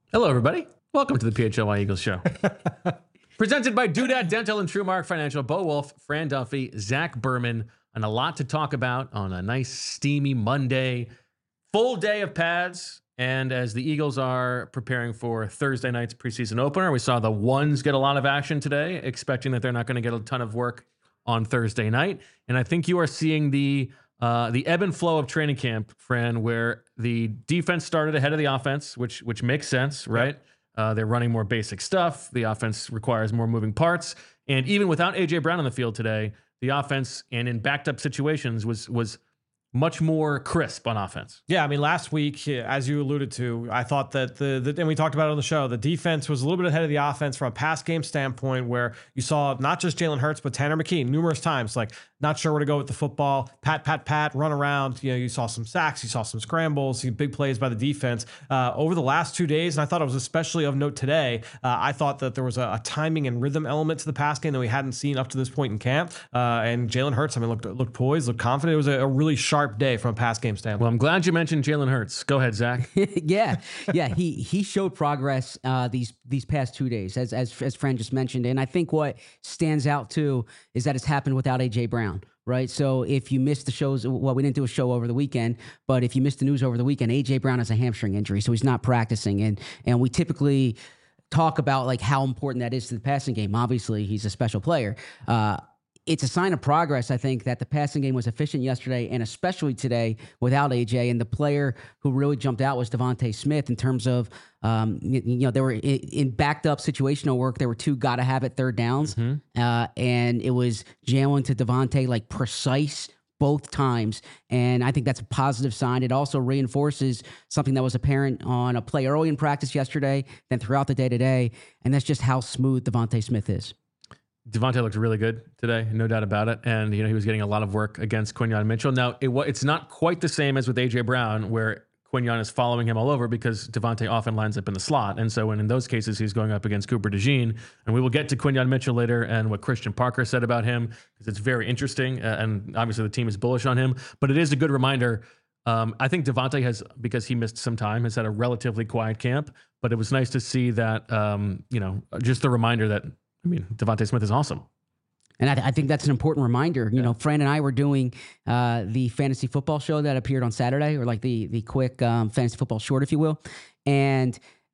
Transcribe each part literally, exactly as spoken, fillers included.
Hello, everybody. Welcome to the P H L Y Eagles show. Presented by Doodad Dental and TrueMark Financial. Bo Wolf, Fran Duffy, Zach Berman, and a lot to talk about on a nice, steamy Monday. Full day of pads. And as the Eagles are preparing for Thursday night's preseason opener, we saw the ones get a lot of action today, expecting that they're not going to get a ton of work on Thursday night. And I think you are seeing the uh, the ebb and flow of training camp, Fran, where the defense started ahead of the offense, which which makes sense, right? Yep. Uh, they're running more basic stuff. The offense requires more moving parts. And even without A J Brown on the field today, the offense, and in backed up situations, was was much more crisp on offense. Yeah, I mean, last week, as you alluded to, I thought that the, the, and we talked about it on the show, the defense was a little bit ahead of the offense from a pass game standpoint, where you saw not just Jalen Hurts, but Tanner McKee numerous times, like not sure where to go with the football, pat, pat, pat, run around. You know, you saw some sacks, you saw some scrambles, some big plays by the defense uh, over the last two days. And I thought it was especially of note today. Uh, I thought that there was a, a timing and rhythm element to the pass game that we hadn't seen up to this point in camp. Uh, and Jalen Hurts, I mean, looked, looked poised, looked confident. It was a, a really sharp day from a pass game standpoint. Well, I'm glad you mentioned Jalen Hurts. Go ahead, Zach. yeah, yeah, he he showed progress uh, these these past two days, as as as Fran just mentioned, and I think what stands out too is that it's happened without A J Brown. Right. So if you missed the shows, well, we didn't do a show over the weekend, but if you missed the news over the weekend, A J Brown has a hamstring injury, so he's not practicing, and and we typically talk about like how important that is to the passing game. Obviously, he's a special player. Uh, It's a sign of progress, I think, that the passing game was efficient yesterday and especially today without A J. And the player who really jumped out was Devontae Smith in terms of, um, you, you know, there were in, in backed up situational work. There were two got to have it third downs. Mm-hmm. Uh, and it was Jalen to Devontae, like precise both times. And I think that's a positive sign. It also reinforces something that was apparent on a play early in practice yesterday, then throughout the day today. And that's just how smooth Devontae Smith is. Devontae looked really good today, no doubt about it. And, you know, he was getting a lot of work against Quinyon Mitchell. Now, it, it's not quite the same as with A J Brown, where Quinyon is following him all over because Devontae often lines up in the slot. And so when in those cases, he's going up against Cooper DeJean. And we will get to Quinyon Mitchell later and what Christian Parker said about him, because it's very interesting. Uh, and obviously the team is bullish on him. But it is a good reminder. Um, I think Devontae has, because he missed some time, has had a relatively quiet camp. But it was nice to see that, um, you know, just the reminder that, I mean, Devontae Smith is awesome. And I, th- I think that's an important reminder. You yeah. know, Fran and I were doing uh, the fantasy football show that appeared on Saturday, or like the the quick um, fantasy football short, if you will. And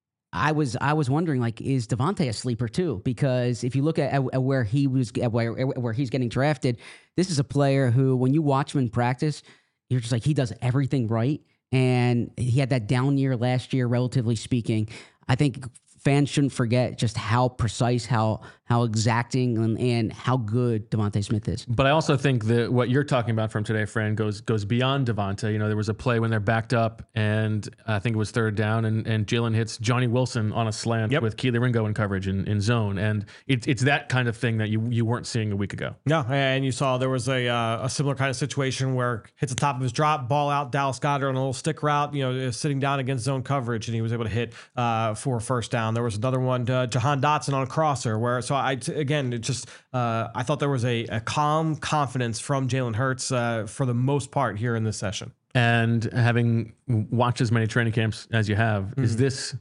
I was I was wondering, like, is Devontae a sleeper too? Because if you look at, at, at where he was, at where where he's getting drafted, this is a player who, when you watch him in practice, you're just like, he does everything right. And he had that down year last year, relatively speaking. I think fans shouldn't forget just how precise, how how exacting, and, and how good Devontae Smith is. But I also think that what you're talking about from today, Fran, goes goes beyond Devontae. You know, there was a play when they're backed up, and I think it was third down, and, and Jalen hits Johnny Wilson on a slant yep. with Keely Ringo in coverage in, in zone. And it, it's that kind of thing that you you weren't seeing a week ago. No, and you saw there was a uh, a similar kind of situation where hits the top of his drop, ball out, Dallas Goedert on a little stick route, you know, sitting down against zone coverage, and he was able to hit uh, for a first down. There was another one, uh, Jahan Dotson on a crosser, where so I again it just uh, I thought there was a, a calm confidence from Jalen Hurts uh, for the most part here in this session. And having watched as many training camps as you have, mm-hmm. is this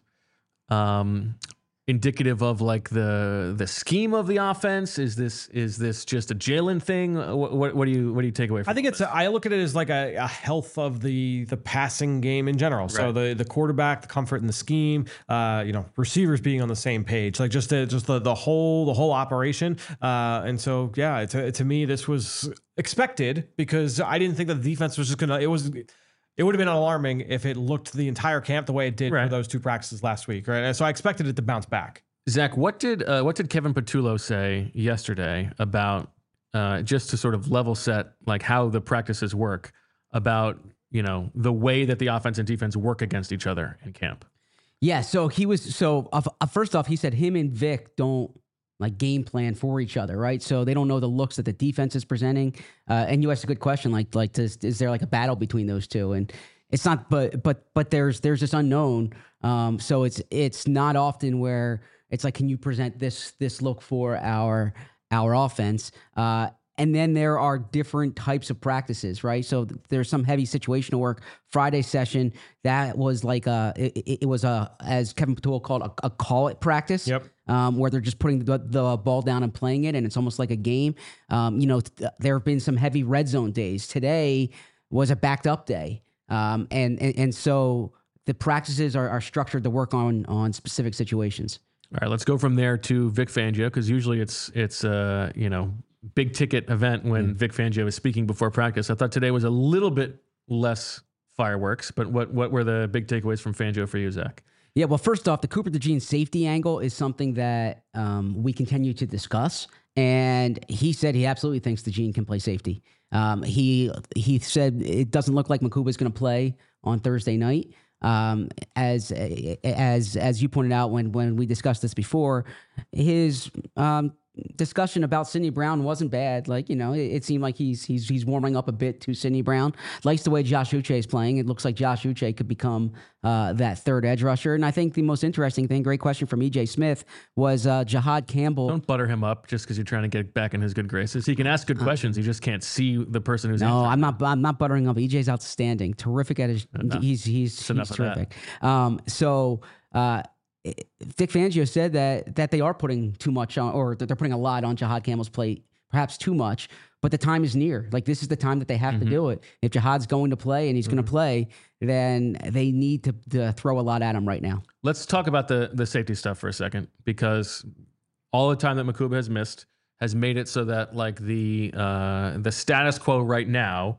um, indicative of like the the scheme of the offense? Is this is this just a Jalen thing? What, what, what do you what do you take away from? I think this? it's a, I look at it as like a, a health of the the passing game in general. Right. So the the quarterback, the comfort in the scheme, uh, you know, receivers being on the same page, like just the, just the the whole the whole operation. Uh, and so yeah, to to me this was expected because I didn't think that the defense was just gonna. It was. It would have been alarming if it looked the entire camp the way it did right. for those two practices last week, right? And so I expected it to bounce back. Zach, what did uh, what did Kevin Patullo say yesterday about uh, just to sort of level set like how the practices work about, you know, the way that the offense and defense work against each other in camp? Yeah, so he was so uh, first off, he said him and Vic don't like game plan for each other, right? So they don't know the looks that the defense is presenting. Uh, and you asked a good question, like, like, does, is there like a battle between those two? And it's not, but, but, but there's, there's this unknown. Um, so it's, it's not often where it's like, can you present this, this look for our, our offense? Uh, and then there are different types of practices, right? So th- there's some heavy situational work. Friday session, that was like a, it, it was a, as Kevin Patul called, a, a call it practice. Yep. Um, where they're just putting the, the ball down and playing it, and it's almost like a game. Um, you know, th- there have been some heavy red zone days. Today was a backed up day. Um, and, and, and so the practices are, are structured to work on, on specific situations. All right, let's go from there to Vic Fangio, because usually it's it's uh, you know, big ticket event when mm. Vic Fangio is speaking before practice. I thought today was a little bit less fireworks, but what what were the big takeaways from Fangio for you, Zach? Yeah, well, first off, the Cooper DeJean safety angle is something that um, we continue to discuss, and he said he absolutely thinks DeJean can play safety. Um, he he said it doesn't look like Mukuba is going to play on Thursday night. Um, as as as you pointed out when when we discussed this before, his um, discussion about Sidney Brown wasn't bad. Like, you know, it, it seemed like he's he's he's warming up a bit to Sidney Brown. Likes the way Josh Uche is playing. It looks like Josh Uche could become uh, that third edge rusher. And I think the most interesting thing, great question from E J Smith, was uh, Jihad Campbell. Don't butter him up just because you're trying to get back in his good graces. He can ask good questions. You just can't see the person who's no. answering. I'm not. I'm not buttering up. E J's outstanding. Terrific at his. Enough. He's he's, It's he's enough of that. terrific. Um, so. Uh, Vic Fangio said that that they are putting too much on, or that they're putting a lot on Jihad Campbell's plate, perhaps too much, but the time is near. Like, this is the time that they have Mm-hmm. to do it. If Jihad's going to play and he's mm-hmm. going to play, then they need to, to throw a lot at him right now. Let's talk about the the safety stuff for a second, because all the time that Mukuba has missed has made it so that, like, the uh, the status quo right now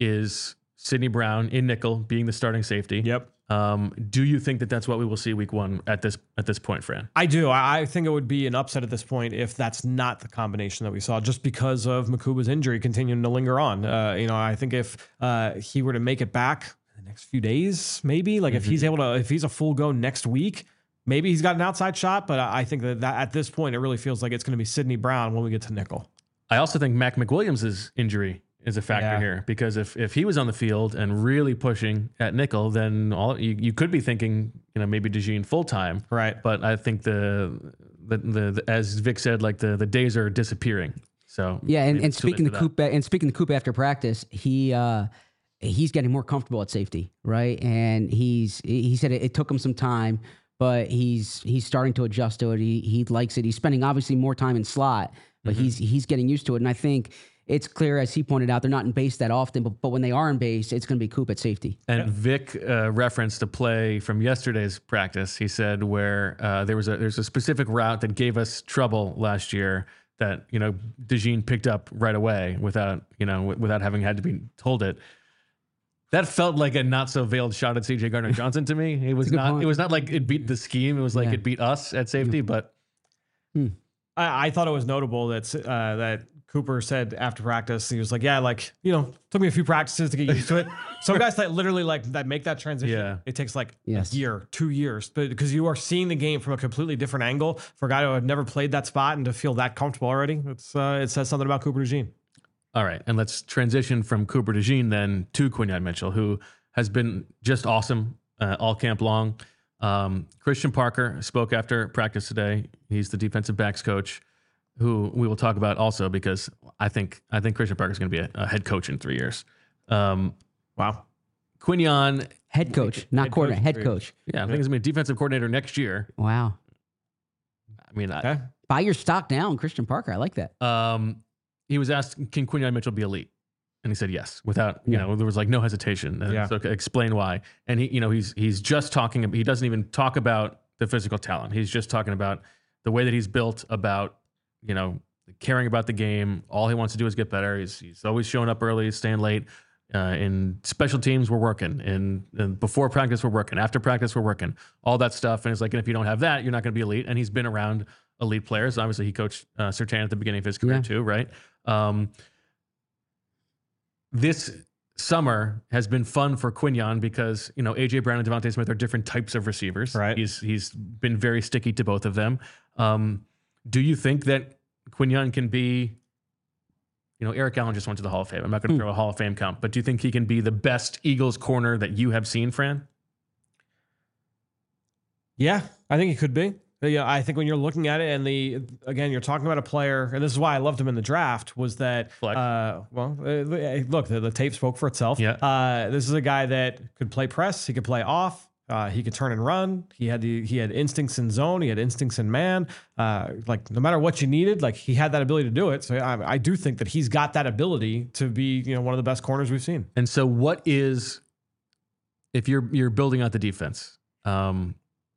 is Sidney Brown in nickel being the starting safety. Yep. Um, do you think that that's what we will see week one at this at this point, Fran? I do. I I think it would be an upset at this point if that's not the combination that we saw, just because of Mukuba's injury continuing to linger on. Uh, you know, I think if uh, he were to make it back in the next few days, maybe, like mm-hmm. if he's able to, if he's a full go next week, maybe he's got an outside shot. But I think that, that at this point, it really feels like it's going to be Sidney Brown when we get to nickel. I also think Mac McWilliams' injury is a factor Yeah. here, because if if he was on the field and really pushing at nickel, then all you, you could be thinking, you know, maybe DeJean full time. Right. But I think the the, the the as Vic said, like the the days are disappearing. So yeah, and, maybe and it's too late speaking to for that. Coop and speaking to Coop after practice, he uh, he's getting more comfortable at safety, right? And he's he said it, it took him some time, but he's he's starting to adjust to it. He he likes it. He's spending obviously more time in slot, but Mm-hmm. he's he's getting used to it. And I think it's clear, as he pointed out, they're not in base that often, but, but when they are in base, it's going to be Coop at safety. And Vic uh, referenced a play from yesterday's practice. He said where uh, there was a there's a specific route that gave us trouble last year that, you know, DeJean picked up right away without, you know, w- without having had to be told it. That felt like a not so veiled shot at C J Gardner Johnson to me. It was a good not. point. It was not like it beat the scheme. It was like Yeah. it beat us at safety. But I, I thought it was notable that uh, that Cooper said after practice, he was like, yeah, like, you know, took me a few practices to get used to it. Some guys that literally like that make that transition. Yeah. It takes like Yes. a year, two years, but because you are seeing the game from a completely different angle for a guy who had never played that spot and to feel that comfortable already. It's uh, it says something about Cooper DeJean. all right, and let's transition from Cooper DeJean then to Quinyon Mitchell, who has been just awesome uh, all camp long. Um, Christian Parker spoke after practice today. He's the defensive backs coach, who we will talk about also, because I think I think Christian Parker is going to be a, a head coach in three years. Um, Wow. Quinyon, Head coach, not Head coordinator, coach, head three. coach. yeah, I think he's going to be a defensive coordinator next year. Wow. I mean, I, Okay. Buy your stock down, Christian Parker. I like that. um, he was asked, "Can Quinyon Mitchell be elite?" And he said yes, without you Yeah. know, there was like no hesitation. And Yeah. So okay, explain why. And he, you know, he's he's just talking. He doesn't even talk about the physical talent. He's just talking about the way that he's built, about, you know, caring about the game. All he wants to do is get better. He's he's always showing up early, staying late. Uh, in special teams, we're working. In, in before practice, we're working. After practice, we're working. All that stuff. And it's like, and if you don't have that, you're not going to be elite. And he's been around elite players. Obviously, he coached uh, Surtain at the beginning of his career Yeah. too, right? Um, this summer has been fun for Quinyon because, you know, A J Brown and Devontae Smith are different types of receivers. Right. He's he's been very sticky to both of them. Um, do you think that Quinyon can be, you know, Eric Allen just went to the Hall of Fame. I'm not going to Hmm. throw a Hall of Fame count, but do you think he can be the best Eagles corner that you have seen, Fran? Yeah, I think he could be. Yeah, I think when you're looking at it, and the again, you're talking about a player, and this is why I loved him in the draft, was that Flex. uh, well, uh, look, the, the tape spoke for itself. Yeah. Uh, this is a guy that could play press, he could play off, uh, he could turn and run. He had the he had instincts in zone, he had instincts in man. Uh, like no matter what you needed, like he had that ability to do it. So I, I do think that he's got that ability to be, you know, one of the best corners we've seen. And so, what is if you're you're building out the defense? Um,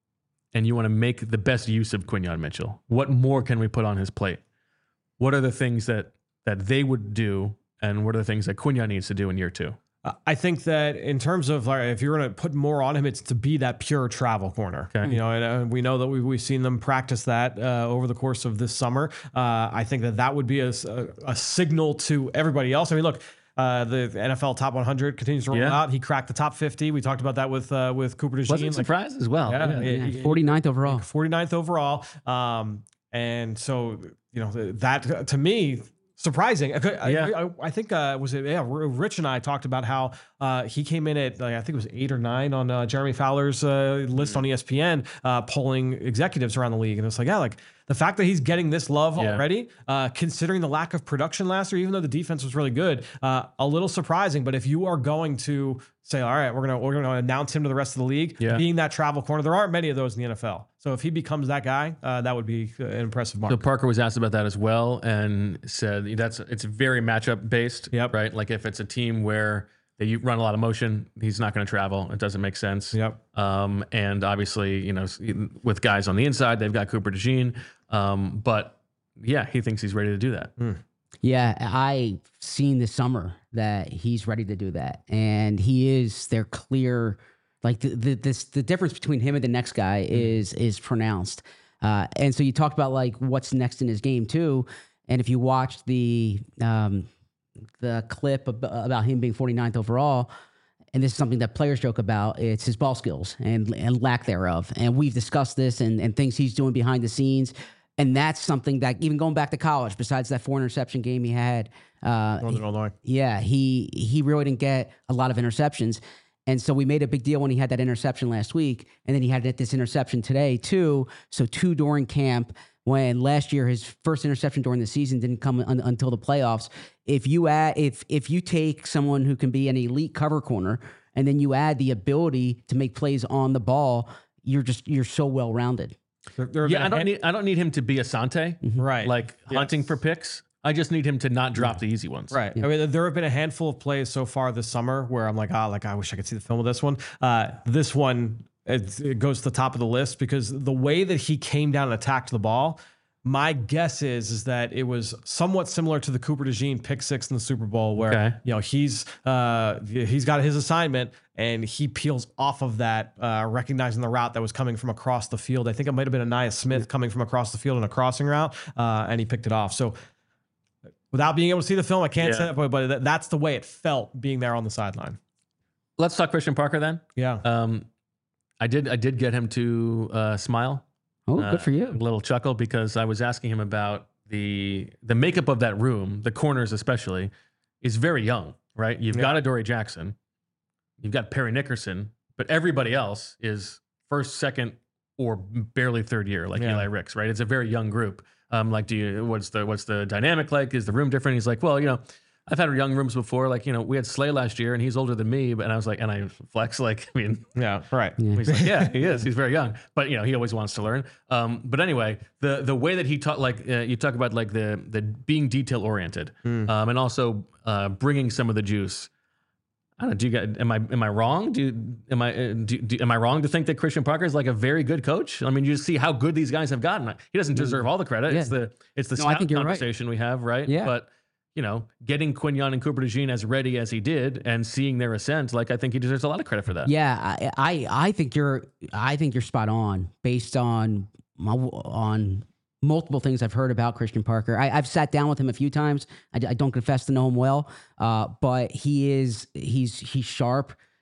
and you want to make the best use of Quinyon Mitchell, what more can we put on his plate? What are the things that that they would do, and what are the things that Quinyon needs to do in year two? Uh, I think that in terms of like, if you're going to put more on him, it's to be that pure travel corner. Okay. You know, and uh, we know that we've, we've seen them practice that uh, over the course of this summer. Uh, I think that that would be a, a, a signal to everybody else. I mean, look, Uh, the N F L Top one hundred continues to roll Yeah. out. He cracked the top fifty. We talked about that with uh, with Cooper DeJean. Wasn't Like, surprised as well. yeah, Yeah. yeah. Yeah, forty-ninth overall. forty-ninth overall. Um, and so, you know, that uh, to me, surprising. I, I, Yeah. I, I think, uh, was it, yeah, Rich and I talked about how uh, he came in at, like, I think it was eight or nine on uh, Jeremy Fowler's uh, list on E S P N, uh, polling executives around the league. And it's like, yeah, like the fact that he's getting this love Yeah. already, uh, considering the lack of production last year, even though the defense was really good, uh, a little surprising. But if you are going to say, all right, we're gonna we're gonna announce him to the rest of the league, Yeah. being that travel corner, there aren't many of those in the N F L. So if he becomes that guy, uh, that would be an impressive mark. So Parker was asked about that as well, and said that's it's very matchup based. Yep. Right. Like if it's a team where they run a lot of motion, he's not going to travel. It doesn't make sense. Yep. Um, and obviously, you know, with guys on the inside, they've got Cooper DeJean. Um, but yeah, he thinks he's ready to do that. Mm. Yeah, I seen this summer that he's ready to do that, and he is. They're clear. Like the the this the difference between him and the next guy is is pronounced. Uh, and so you talked about like what's next in his game too. And if you watch the um, the clip ab- about him being forty-ninth overall, and this is something that players joke about, it's his ball skills and and lack thereof. And we've discussed this and and things he's doing behind the scenes. And that's something that even going back to college, besides that four interception game he had, uh, Northern Illinois. yeah, he he really didn't get a lot of interceptions. And so we made a big deal when he had that interception last week. And then he had this interception today too. So two during camp, when last year his first interception during the season didn't come un- until the playoffs. If you add, if if you take someone who can be an elite cover corner and then you add the ability to make plays on the ball, you're just you're so well rounded. There, there have Yeah, been I a don't hand- need I don't need him to be Asante, right. like Yes. hunting for picks. I just need him to not drop the easy ones. Right. I mean, there have been a handful of plays so far this summer where I'm like, ah, like I wish I could see the film of this one. Uh, this one, it, it goes to the top of the list because the way that he came down and attacked the ball, my guess is is that it was somewhat similar to the Cooper DeJean pick six in the Super Bowl, where Okay. you know he's uh, he's got his assignment and he peels off of that, uh, recognizing the route that was coming from across the field. I think it might have been Anaya Smith coming from across the field in a crossing route, uh, and he picked it off. So. Without being able to see the film, I can't Yeah. say that, but, but that- that's the way it felt being there on the sideline. Let's talk Christian Parker then. Yeah. Um, I did I did get him to uh, smile. Oh, Uh, good for A you. little chuckle because I was asking him about the the makeup of that room, the corners especially, is very young, right? You've Yeah. got Adoree Jackson, you've got Perry Nickerson, but everybody else is first, second, or barely third year, like Yeah. Eli Ricks, right? It's a very young group. Um, like, do you what's the what's the dynamic like? Is the room different? He's like, well, you know, I've had young rooms before. Like, you know, we had Slay last year, and he's older than me. But and I was like, and I flex, like, I mean, Yeah. Right. Yeah. He's like, yeah, he is. He's very young, but you know, he always wants to learn. Um, but anyway, the the way that he taught, like uh, you talk about, like the the being detail oriented, Hmm. um, and also uh, bringing some of the juice. I don't know. Do you get? Am I am I wrong? Do you, am I uh, do, do, am I wrong to think that Christian Parker is like a very good coach? I mean, you just see how good these guys have gotten. He doesn't deserve all the credit. It's Yeah. the it's the No, I scout think you're right. conversation we have, right? Yeah. But you know, getting Quinyon and Cooper DeJean as ready as he did, and seeing their ascent, like I think he deserves a lot of credit for that. Yeah, I, I I think you're I think you're spot on based on my, on multiple things I've heard about Christian Parker. I, I've sat down with him a few times. I, I don't confess to know him well, uh, but he is he's he's sharp.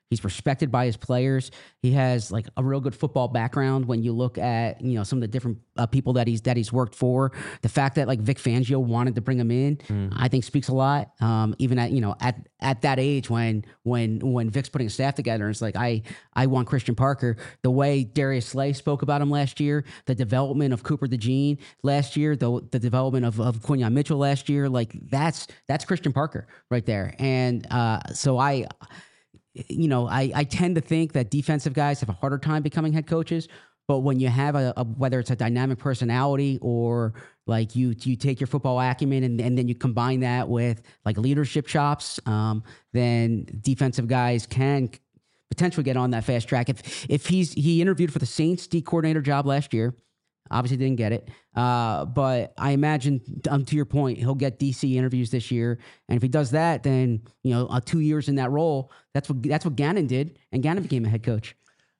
He's respected by his players. He has like a real good football background. When you look at, you know, some of the different uh, people that he's that he's worked for, the fact that like Vic Fangio wanted to bring him in, mm. I think speaks a lot. Um, even at you know at at that age when when when Vic's putting a staff together, and it's like I I want Christian Parker. The way Darius Slay spoke about him last year, the development of Cooper DeJean last year, the the development of of Quinyon Mitchell last year, like that's that's Christian Parker right there. And uh, so I. You know, I, I tend to think that defensive guys have a harder time becoming head coaches, but when you have a, a whether it's a dynamic personality or like you you take your football acumen and, and then you combine that with like leadership chops, um, then defensive guys can potentially get on that fast track. If if he's he interviewed for the Saints D coordinator job last year. Obviously didn't get it. Uh, but I imagine, um, to your point, he'll get D C interviews this year. And if he does that, then, you know, uh, two years in that role, that's what that's what Gannon did. And Gannon became a head coach.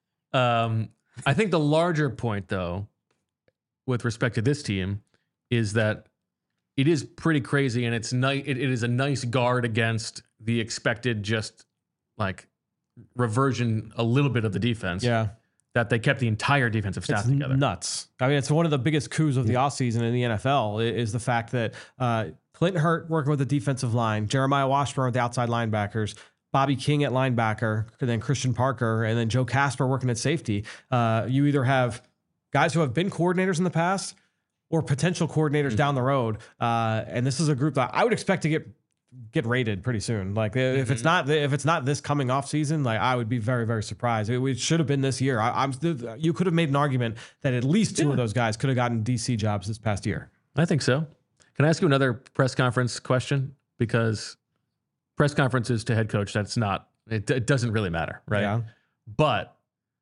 Um, I think the larger point, though, with respect to this team, is that it is pretty crazy. And it's nice. It, it is a nice guard against the expected just like reversion a little bit of the defense. Yeah. That they kept the entire defensive staff it's together. Nuts. I mean, it's one of the biggest coups of the offseason in the N F L is the fact that uh, Clinton Hurt working with the defensive line, Jeremiah Washburn with the outside linebackers, Bobby King at linebacker, and then Christian Parker, and then Joe Casper working at safety. Uh, you either have guys who have been coordinators in the past or potential coordinators mm-hmm. down the road. Uh, and this is a group that I would expect to get get rated pretty soon. Like if mm-hmm. it's not if it's not this coming off season, like I would be very very surprised. It, it should have been this year. I, I'm you could have made an argument that at least two yeah. of those guys could have gotten D C jobs this past year. I think so. Can I ask you another press conference question? Because press conferences to head coach, that's not it, it doesn't really matter, right? Yeah. But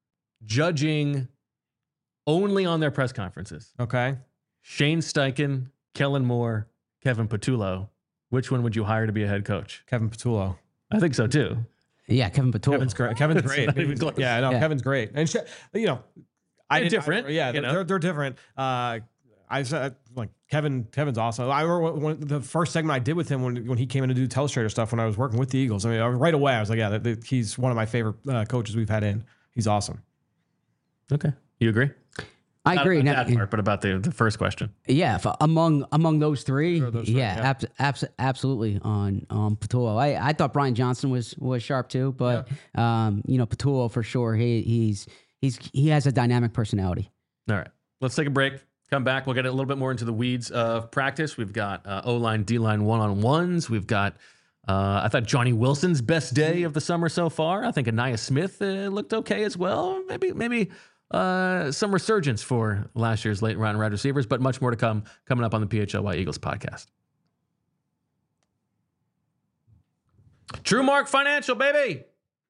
judging only on their press conferences, okay. Shane Steichen, Kellen Moore, Kevin Patullo. Which one would you hire to be a head coach? Kevin Patullo. I think so too. Yeah, Kevin Patullo. Kevin's great. Kevin's great. Yeah, no, yeah. Kevin's great. And you know, I they're different. I, yeah, they're, they're they're different. Uh, I said like Kevin. Kevin's awesome. I remember when, the first segment I did with him when when he came in to do Telestrator stuff when I was working with the Eagles. I mean, right away I was like, yeah, that, he's one of my favorite uh, coaches we've had in. He's awesome. Okay, you agree? I Not agree. About that part, but about the, the first question. Yeah, if, among among those three, those three yeah, yeah. Abs, abs, absolutely on um, Patullo. I, I thought Brian Johnson was was sharp too, but yeah. um, you know Patullo for sure. He he's he's he has a dynamic personality. All right, let's take a break. Come back. We'll get a little bit more into the weeds of practice. We've got uh, O-line, D-line one-on-ones. We've got. Uh, I thought Johnny Wilson's best day of the summer so far. I think Anaya Smith uh, looked okay as well. Maybe maybe. Uh, some resurgence for last year's late round wide receivers, but much more to come coming up on the P H L Y Eagles podcast. TrueMark Financial, baby.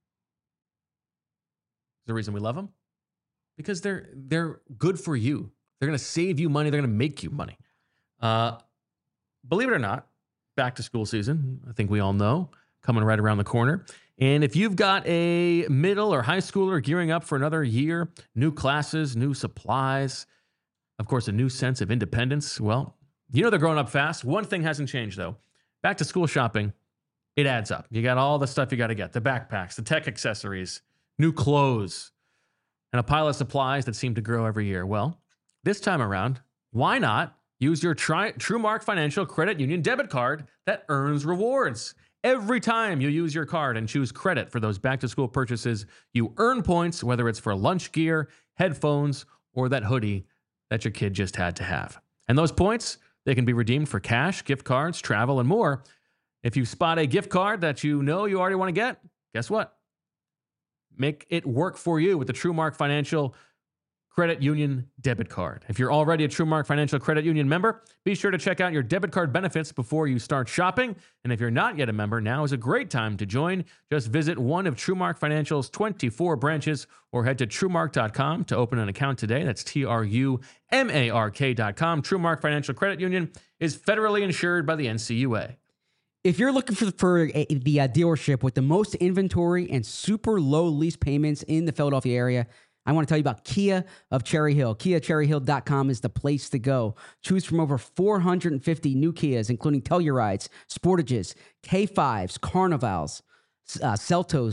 The reason we love them because they're they're good for you. They're going to save you money. They're going to make you money. Uh, believe it or not, back to school season. I think we all know coming right around the corner. And if you've got a middle or high schooler gearing up for another year, new classes, new supplies, of course, a new sense of independence, well, you know they're growing up fast. One thing hasn't changed, though. Back to school shopping, it adds up. You got all the stuff you got to get, the backpacks, the tech accessories, new clothes, and a pile of supplies that seem to grow every year. Well, this time around, why not use your tri- TrueMark Financial Credit Union debit card that earns rewards? Every time you use your card and choose credit for those back-to-school purchases, you earn points, whether it's for lunch gear, headphones, or that hoodie that your kid just had to have. And those points, they can be redeemed for cash, gift cards, travel, and more. If you spot a gift card that you know you already want to get, guess what? Make it work for you with the TrueMark Financial Credit Union debit card. If you're already a TrueMark Financial Credit Union member, be sure to check out your debit card benefits before you start shopping. And if you're not yet a member, now is a great time to join. Just visit one of TrueMark Financial's twenty-four branches or head to TrueMark dot com to open an account today. That's T R U M A R K dot com. TrueMark Financial Credit Union is federally insured by the N C U A. If you're looking for, for a, the uh, dealership with the most inventory and super low lease payments in the Philadelphia area, I want to tell you about Kia of Cherry Hill. Kia Cherry Hill dot com is the place to go. Choose from over four hundred fifty new Kias, including Tellurides, Sportages, K fives, Carnivals, uh, Seltos,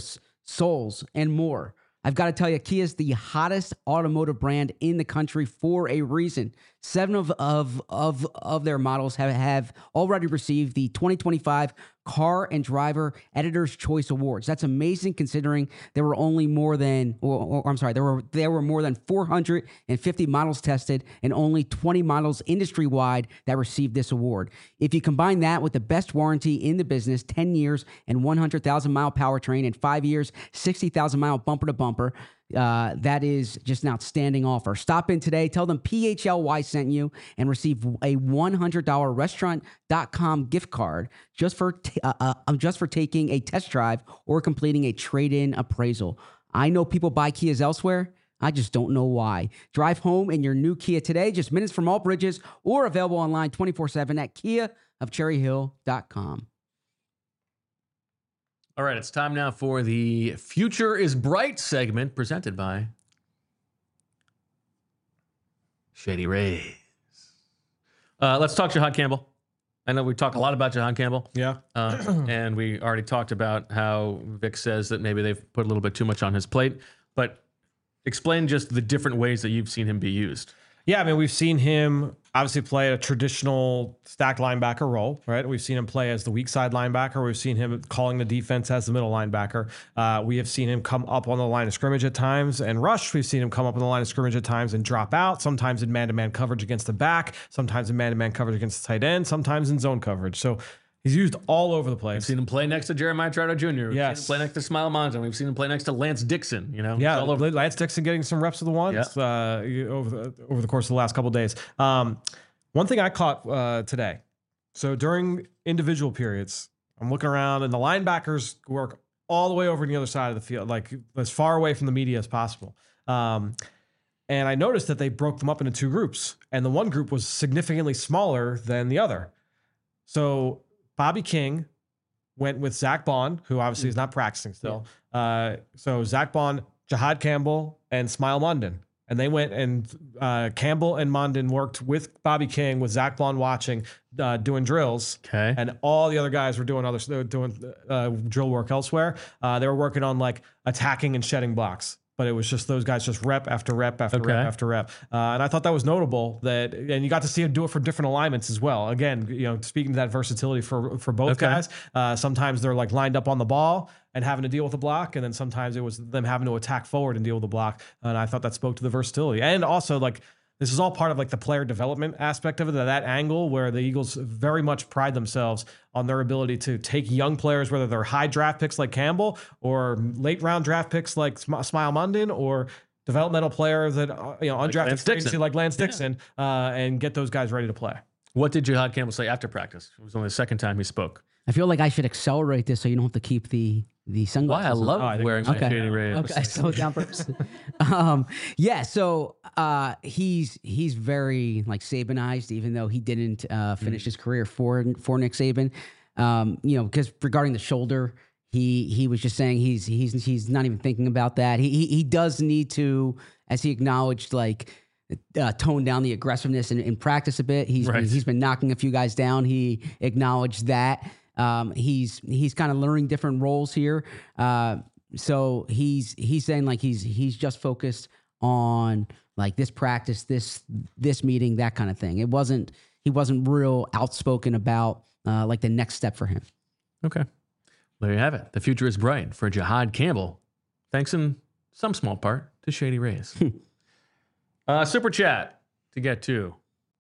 Souls, and more. I've got to tell you, Kia is the hottest automotive brand in the country for a reason. Seven of of of, of their models have, have already received the twenty twenty-five Car and Driver Editor's Choice Awards. That's amazing considering there were only more than, or, or I'm sorry, there were there were more than four hundred fifty models tested and only twenty models industry-wide that received this award. If you combine that with the best warranty in the business, ten years and one hundred thousand mile powertrain, and five years, sixty thousand mile bumper to bumper, Uh, that is just an outstanding offer. Stop in today, tell them P H L Y sent you, and receive a one hundred dollars restaurant dot com gift card just for t- uh, uh, just for taking a test drive or completing a trade-in appraisal. I know people buy Kias elsewhere. I just don't know why. Drive home in your new Kia today, just minutes from all bridges, or available online twenty-four seven at kia of cherry hill dot com. All right, it's time now for the Future is Bright segment presented by Shady Rays. Uh, let's talk Jahad Campbell. I know we talk a lot about Jahad Campbell. Yeah. Uh, and we already talked about how Vic says that maybe they've put a little bit too much on his plate. But explain just the different ways that you've seen him be used. Yeah, I mean, we've seen him obviously play a traditional stacked linebacker role, right? We've seen him play as the weak side linebacker. We've seen him calling the defense as the middle linebacker. Uh, we have seen him come up on the line of scrimmage at times and rush. We've seen him come up on the line of scrimmage at times and drop out, sometimes in man-to-man coverage against the back, sometimes in man-to-man coverage against the tight end, sometimes in zone coverage. So he's used all over the place. We've seen him play next to Jeremiah Trotter Junior We've yes. seen him play next to Smile Monson. We've seen him play next to Lance Dixon. You know, Yeah, all over. Lance Dixon getting some reps of the ones Yeah. uh, over the over the course of the last couple of days. Um, one thing I caught uh, today. So during individual periods, I'm looking around and the linebackers work all the way over to the other side of the field, like as far away from the media as possible. Um, and I noticed that they broke them up into two groups, and the one group was significantly smaller than the other. So Bobby King went with Zach Bond, who obviously is not practicing still. Yeah. Uh, so Zach Bond, Jahad Campbell, and Smile Mondon. And they went and uh, Campbell and Mondon worked with Bobby King, with Zach Bond watching, uh, doing drills. Okay. And all the other guys were doing other they were doing uh, drill work elsewhere. Uh, they were working on like attacking and shedding blocks. But it was just those guys just rep after rep after Okay. rep after rep. Uh, and I thought that was notable that, and you got to see him do it for different alignments as well. Again, you know, speaking to that versatility for, for both Okay. guys, uh, sometimes they're like lined up on the ball and having to deal with the block. And then sometimes it was them having to attack forward and deal with the block. And I thought that spoke to the versatility. And also like, this is all part of like the player development aspect of it, that angle where the Eagles very much pride themselves on their ability to take young players, whether they're high draft picks like Campbell or late round draft picks like Sm- Smile Mondon, or developmental players that, uh, you know, undrafted Lance free Dixon. agency like Lance Dixon, uh, and get those guys ready to play. What did Jahad Campbell say after practice? It was only the second time he spoke. I feel like I should accelerate this so you don't have to keep the the Why sunglasses. I on. love Oh, I think- wearing my Okay. Shady Rays. Okay, slow it down first. um, yeah, so uh, he's he's very like Sabanized, even though he didn't uh, finish Mm. his career for for Nick Saban. Um, you know, because regarding the shoulder, he he was just saying he's he's he's not even thinking about that. He he, he does need to, as he acknowledged, like uh, tone down the aggressiveness in, in practice a bit. He's Right. been, he's been knocking a few guys down. He acknowledged that. Um, he's he's kind of learning different roles here. Uh, so he's he's saying like he's he's just focused on like this practice, this this meeting, that kind of thing. It wasn't he wasn't real outspoken about uh, like the next step for him. Okay. There you have it. The future is bright for Jahad Campbell. Thanks in some small part to Shady Rays. uh, super chat to get to.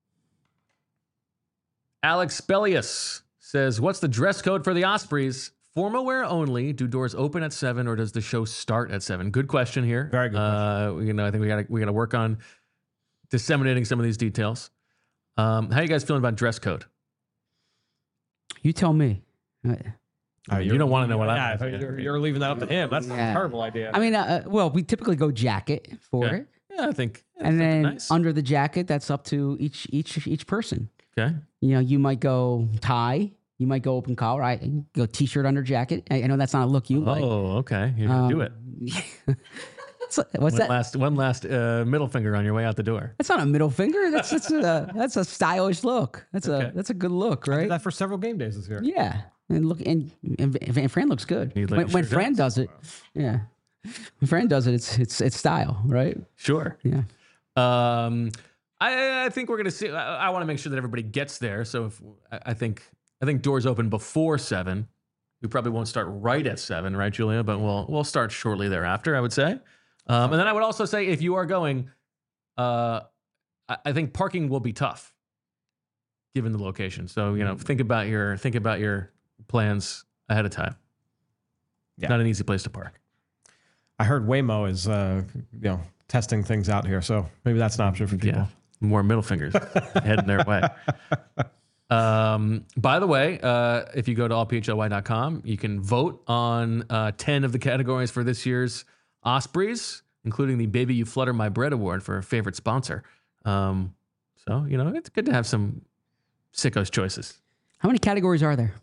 Alex Bellius says, what's the dress code for the Ospreys? Formal wear only. Do doors open at seven or does the show start at seven? Good question here. Very good Uh, you know, I think we got we got to work on disseminating some of these details. Um, how you guys feeling about dress code? You tell me. Uh, I mean, you don't want to know what yeah, I'm. you're, you're leaving that up to him. That's Yeah. a terrible idea. I mean, uh, well, we typically go jacket for Okay. it, Yeah, I think. I and think then nice. under the jacket, that's up to each each each person. Okay. You know, you might go tie, you might go open collar, I go t-shirt under jacket. I, I know that's not a look you like. Oh, okay. You're gonna do it. So, what's One that? last, one last uh, middle finger on your way out the door. That's not a middle finger. That's that's a that's a stylish look. That's Okay. a that's a good look, I did right? that for several game days this year. Yeah. And look, and, and, and Fran looks good. He When, when sure Fran does. does it, yeah. When Fran does it, it's it's it's style, right? Sure. Yeah. Um, I, I think we're gonna see. I, I want to make sure that everybody gets there. So if I I think I think doors open before seven. We probably won't start right at seven, right, Julia? But we'll we'll start shortly thereafter, I would say. Um, and then I would also say, if you are going, uh, I, I think parking will be tough, given the location. So you know, think about your think about your plans ahead of time. Yeah. Not an easy place to park. I heard Waymo is, uh, you know, testing things out here, so maybe that's an option for people. Yeah, more middle fingers heading their way. Um, by the way, uh, if you go to all p h l y dot com, you can vote on uh, ten of the categories for this year's Ospreys, including the Baby You Flutter My Bread Award for favorite sponsor. Um, so, you know, it's good to have some sickos choices. How many categories are there?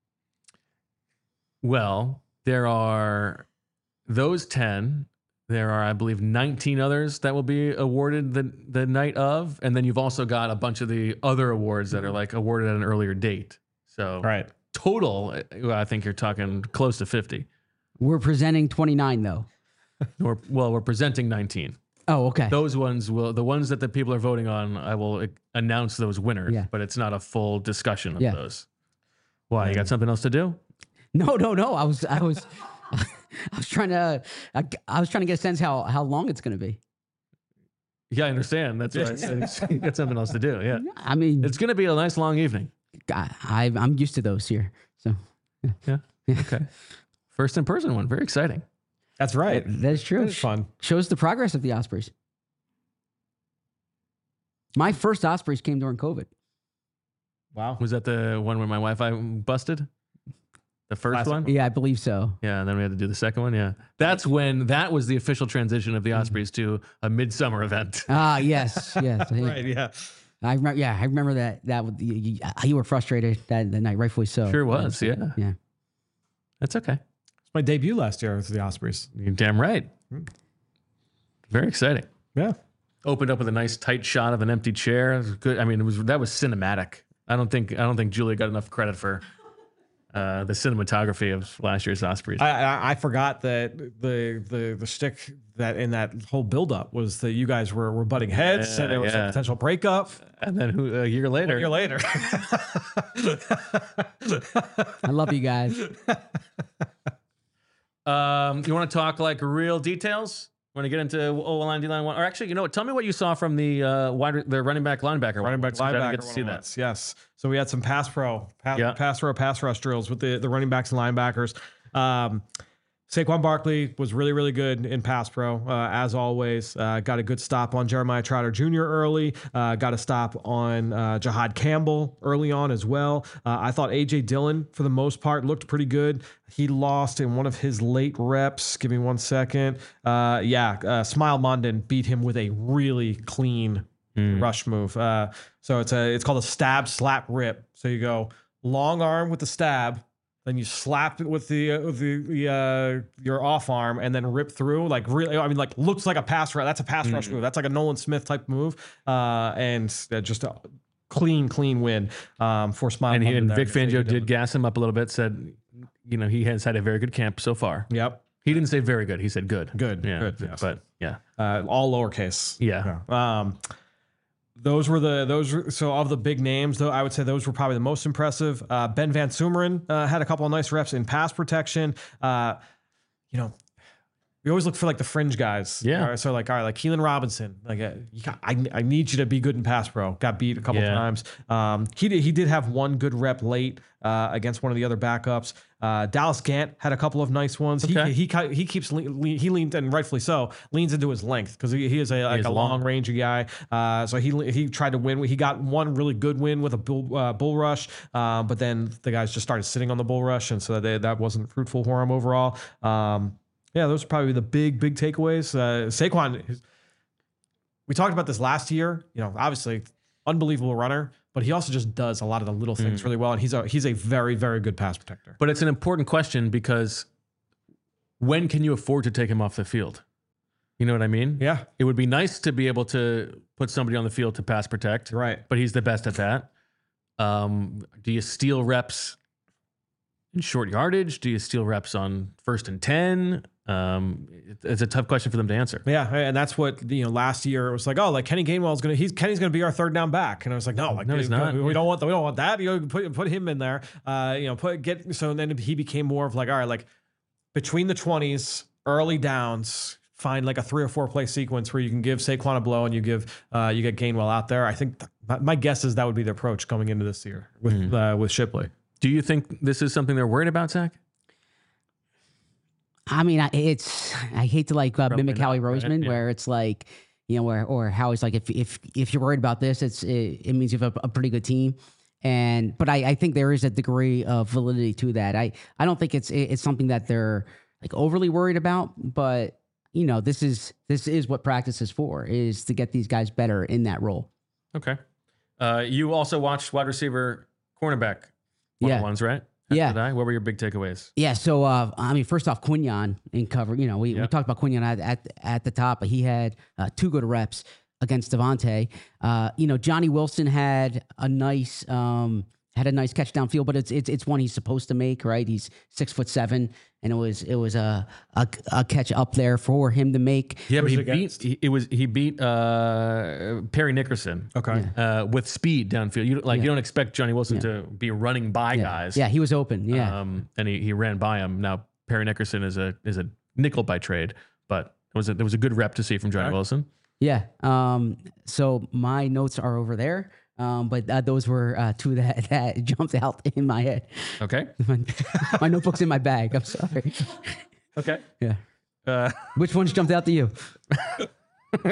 Well, there are those ten. There are, I believe, nineteen others that will be awarded the, the night of. And then you've also got a bunch of the other awards that are like awarded at an earlier date. So Right. total, I think you're talking close to fifty. We're presenting twenty-nine though. Or, well, we're presenting nineteen. Oh, okay. Those ones will, the ones that the people are voting on, I will announce those winners, Yeah. but it's not a full discussion of Yeah. those. Why? You got something else to do? No, no, no. I was, I was, I was trying to, I, I was trying to get a sense how how long it's going to be. Yeah, I understand. That's why I said you got something else to do. Yeah. I mean, It's going to be a nice long evening. I, I I'm used to those here. So Yeah. Okay. First in person one. Very exciting. That's right. that is true. It's fun. Shows the progress of the Ospreys. My first Ospreys came during COVID. Wow. Was that the one where my Wi-Fi busted? The first Classic one? Yeah, I believe so. Yeah, and then we had to do the second one. Yeah. That's when that was the official transition of the Ospreys to a midsummer event. Ah, yes, yes. Right. Yeah. I remember. Yeah, I remember that. That would- you, you, you were frustrated that, that night, rightfully so. Sure was, yeah. Yeah. That's okay. It's my debut last year with the Ospreys. You're damn right. Very exciting. Yeah. Opened up with a nice tight shot of an empty chair. It was good. I mean, it was that was cinematic. I don't think I don't think Julia got enough credit for uh, the cinematography of last year's Ospreys. I, I I forgot that the the the shtick that in that whole buildup was that you guys were were butting heads Yeah, and there was yeah. a potential breakup. and then who, a year later, A year later. I love you guys. Um, you want to talk like real details? Want to get into O line, D line one? Or actually, you know what? Tell me what you saw from the uh, wide, the running back linebacker. Running back, one. I didn't linebacker. get to see that. one-on-ones. Yes. So we had some pass pro, pass, Yeah. pass pro, pass rush drills with the, the running backs and linebackers. Um, Saquon Barkley was really, really good in pass pro, uh, as always. Uh, got a good stop on Jeremiah Trotter Junior early. Uh, got a stop on uh, Jahad Campbell early on as well. Uh, I thought A J Dillon, for the most part, looked pretty good. He lost in one of his late reps. Give me one second. Uh, yeah, uh, Smile Mondon beat him with a really clean rush move. Uh, so it's a it's called a stab slap rip. So you go long arm with the stab. Then you slap it with the uh, with the, the uh, your off arm and then rip through like really. I mean, like looks like a pass rush. That's a pass rush move. That's like a Nolan Smith type move. Uh, and uh, just a clean, clean win um, for Smile. And, he, and Mondon Vic there. Fangio did gas him up a little bit. Said, you know, he has had a very good camp so far. Yep. He didn't say very good. He said good. Good. Yeah. Good. Yes. But yeah. Uh, all lowercase. Yeah. Yeah. Um, those were the those were, so of the big names though I would say those were probably the most impressive. Uh, Ben Van Sumeren uh, had a couple of nice reps in pass protection. Uh, you know, we always look for like the fringe guys. Yeah. All right, so like all right, like Keelan Robinson. Like uh, you got, I I need you to be good in pass pro. Got beat a couple Yeah. times. Um, he did he did have one good rep late uh, against one of the other backups. Uh, Dallas Gant had a couple of nice ones. Okay. He, he he keeps le- le- he leans and rightfully so leans into his length because he, he is a like is a long. long range guy. Uh, so he he tried to win. He got one really good win with a bull uh, bull rush, uh, but then the guys just started sitting on the bull rush, and so they, that wasn't fruitful for him overall. Um, yeah, those are probably the big big takeaways. Uh, Saquon, his- we talked about this last year. You know, obviously unbelievable runner, but he also just does a lot of the little things really well, and he's a he's a very very good pass protector. But it's an important question because when can you afford to take him off the field? You know what I mean? Yeah, It would be nice to be able to put somebody on the field to pass protect, you're right. but he's the best at that. Um, do you steal reps in short yardage? Do you steal reps on first and ten? Um, it, it's a tough question for them to answer. Yeah, and that's what you know. Last year it was like, oh, like Kenny Gainwell's gonna, he's Kenny's gonna be our third down back, and I was like, no, like No, he's we, not. We don't want, we don't want that. You know, put put him in there. Uh, you know, put get so then he became more of like, all right, like between the twenties, early downs, find like a three or four play sequence where you can give Saquon a blow and you give uh, you get Gainwell out there. I think th- my, my guess is that would be the approach coming into this year with mm. uh, with Shipley. Do you think this is something they're worried about, Zach? I mean, I- it's I hate to like uh, mimic not, Howie right? Roseman, Yeah. where it's like, you know, where or Howie's like, if if if you're worried about this, it's it, it means you have a, a pretty good team. And but I, I think there is a degree of validity to that. I I don't think it's it's something that they're like overly worried about, but you know, this is this is what practice is for, is to get these guys better in that role. Okay. Uh, you also watched wide receiver, cornerback Yeah. one-on-ones, right? Yeah. Did I? What were your big takeaways? Yeah, so uh, I mean, first off, Quinyon in cover. You know, we, Yeah. we talked about Quinyon at, at at the top, but he had uh, two good reps against Devontae. Uh, you know, Johnny Wilson had a nice um, had a nice catch downfield, but it's it's it's one he's supposed to make, right? He's six foot seven, and it was it was a a, a catch up there for him to make. Yeah, but Who's he it beat against? he, it was he beat uh, Perry Nickerson. Okay. Uh, with speed downfield. You like Yeah. you don't expect Johnny Wilson Yeah. to be running by Yeah. guys. Yeah, he was open. Yeah, Um, and he, he ran by him. Now Perry Nickerson is a is a nickel by trade, but it was a, there was a good rep to see from Johnny Okay. Wilson. yeah. Um, so my notes are over there. Um, but uh, those were uh, two that, that jumped out in my head. Okay. my, my notebook's in my bag. I'm sorry. Okay. Yeah. Uh, Which ones jumped out to you? uh,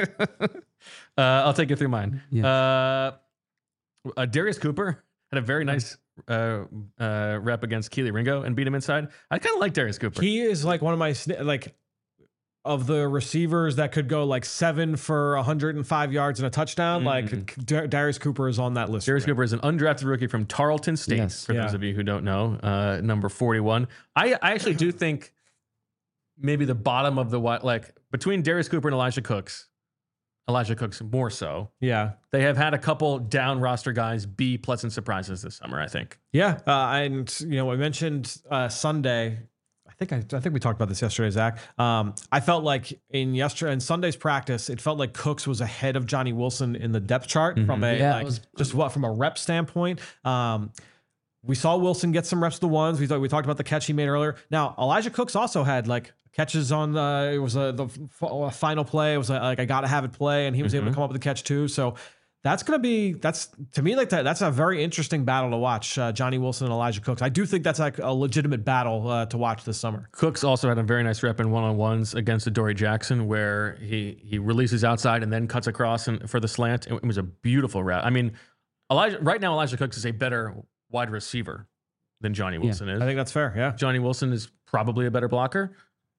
I'll take you through mine. Yeah. Uh, uh, Darius Cooper had a very nice uh, uh, rep against Keely Ringo and beat him inside. I kind of like Darius Cooper. He is like one of my sni- like of the receivers that could go like seven for one hundred five yards and a touchdown. Like Dar- Darius Cooper is on that list. Darius for me. Cooper is an undrafted rookie from Tarleton State, Yes. for Yeah. those of you who don't know, uh, number forty-one. I, I actually do think maybe the bottom of the, wi- like between Darius Cooper and Elijah Cooks, Elijah Cooks more so, Yeah. they have had a couple down roster guys be pleasant surprises this summer, I think. Yeah, uh, and you know, I mentioned uh, Sunday. I think I, I think we talked about this yesterday, Zach. Um, I felt like in yesterday in Sunday's practice, it felt like Cooks was ahead of Johnny Wilson in the depth chart from a Yeah, it like, was- just what from a rep standpoint. Um, we saw Wilson get some reps of the ones. We thought we talked about the catch he made earlier. Now Elijah Cooks also had like catches on the it was a the f- final play. It was a, like I gotta have it play, and he was able to come up with the catch too. So. That's going to be, that's to me, like that, that's a very interesting battle to watch. Uh, Johnny Wilson and Elijah Cooks. I do think that's like a legitimate battle uh, to watch this summer. Cooks also had a very nice rep in one-on-ones against Adoree Jackson where he he releases outside and then cuts across and, for the slant. It, it was a beautiful route. I mean, Elijah right now Elijah Cooks is a better wide receiver than Johnny Wilson is. I think that's fair. Yeah. Johnny Wilson is probably a better blocker.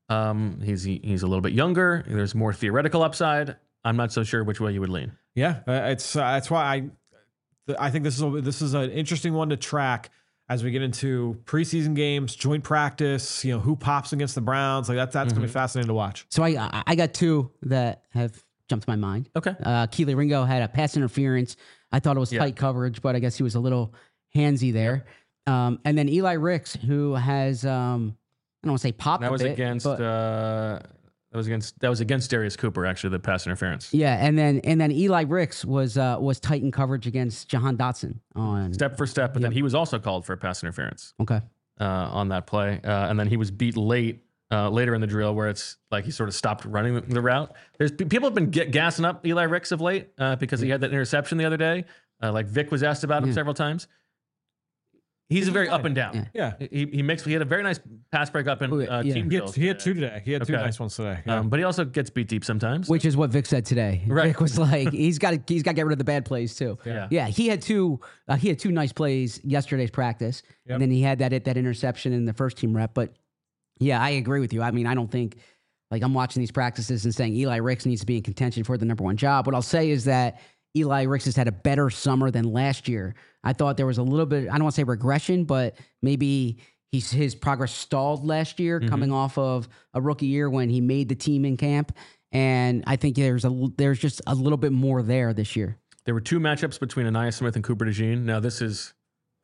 Um, he's he, he's a little bit younger. There's more theoretical upside. I'm not so sure which way you would lean. Yeah. Uh, it's, uh, that's why I, th- I think this is, a, this is an interesting one to track as we get into preseason games, joint practice, you know, who pops against the Browns. Like that's, that's going to be fascinating to watch. So I I- I got two that have jumped to my mind. Okay. Uh, Keely Ringo had a pass interference. I thought it was Yeah. tight coverage, but I guess he was a little handsy there. Um, and then Eli Ricks, who has um, I don't want to say popped That a was bit, against but- uh, that was against that was against Darius Cooper actually, the pass interference. yeah, and then and then Eli Ricks was uh, was tight in coverage against Jahan Dotson on Step for step, but then Yep. he was also called for a pass interference okay. uh, on that play, uh, and then he was beat late uh, later in the drill where it's like he sort of stopped running the, the route. There's people have been get, gassing up Eli Ricks of late uh, because he had that interception the other day. Uh, like Vic was asked about him Yeah. several times. He's a very up and down. Yeah. Yeah. He he makes he had a very nice pass break up in Oh, uh, yeah. team He had, drills he had today. two today. He had two Okay. nice ones today. Yeah. Um, but he also gets beat deep sometimes. Which is what Vic said today. Right. Vic was like, he's got to he's got to get rid of the bad plays too. Yeah. Yeah, he had two uh, he had two nice plays yesterday's practice, Yep. and then he had that that interception in the first team rep. But yeah, I agree with you. I mean, I don't think like I'm watching these practices and saying Eli Ricks needs to be in contention for the number one job. What I'll say is that Eli Ricks has had a better summer than last year. I thought there was a little bit, I don't want to say regression, but maybe he's his progress stalled last year, Mm-hmm. coming off of a rookie year when he made the team in camp. And I think there's a there's just a little bit more there this year. There were two matchups between Anaya Smith and Cooper DeJean. Now this is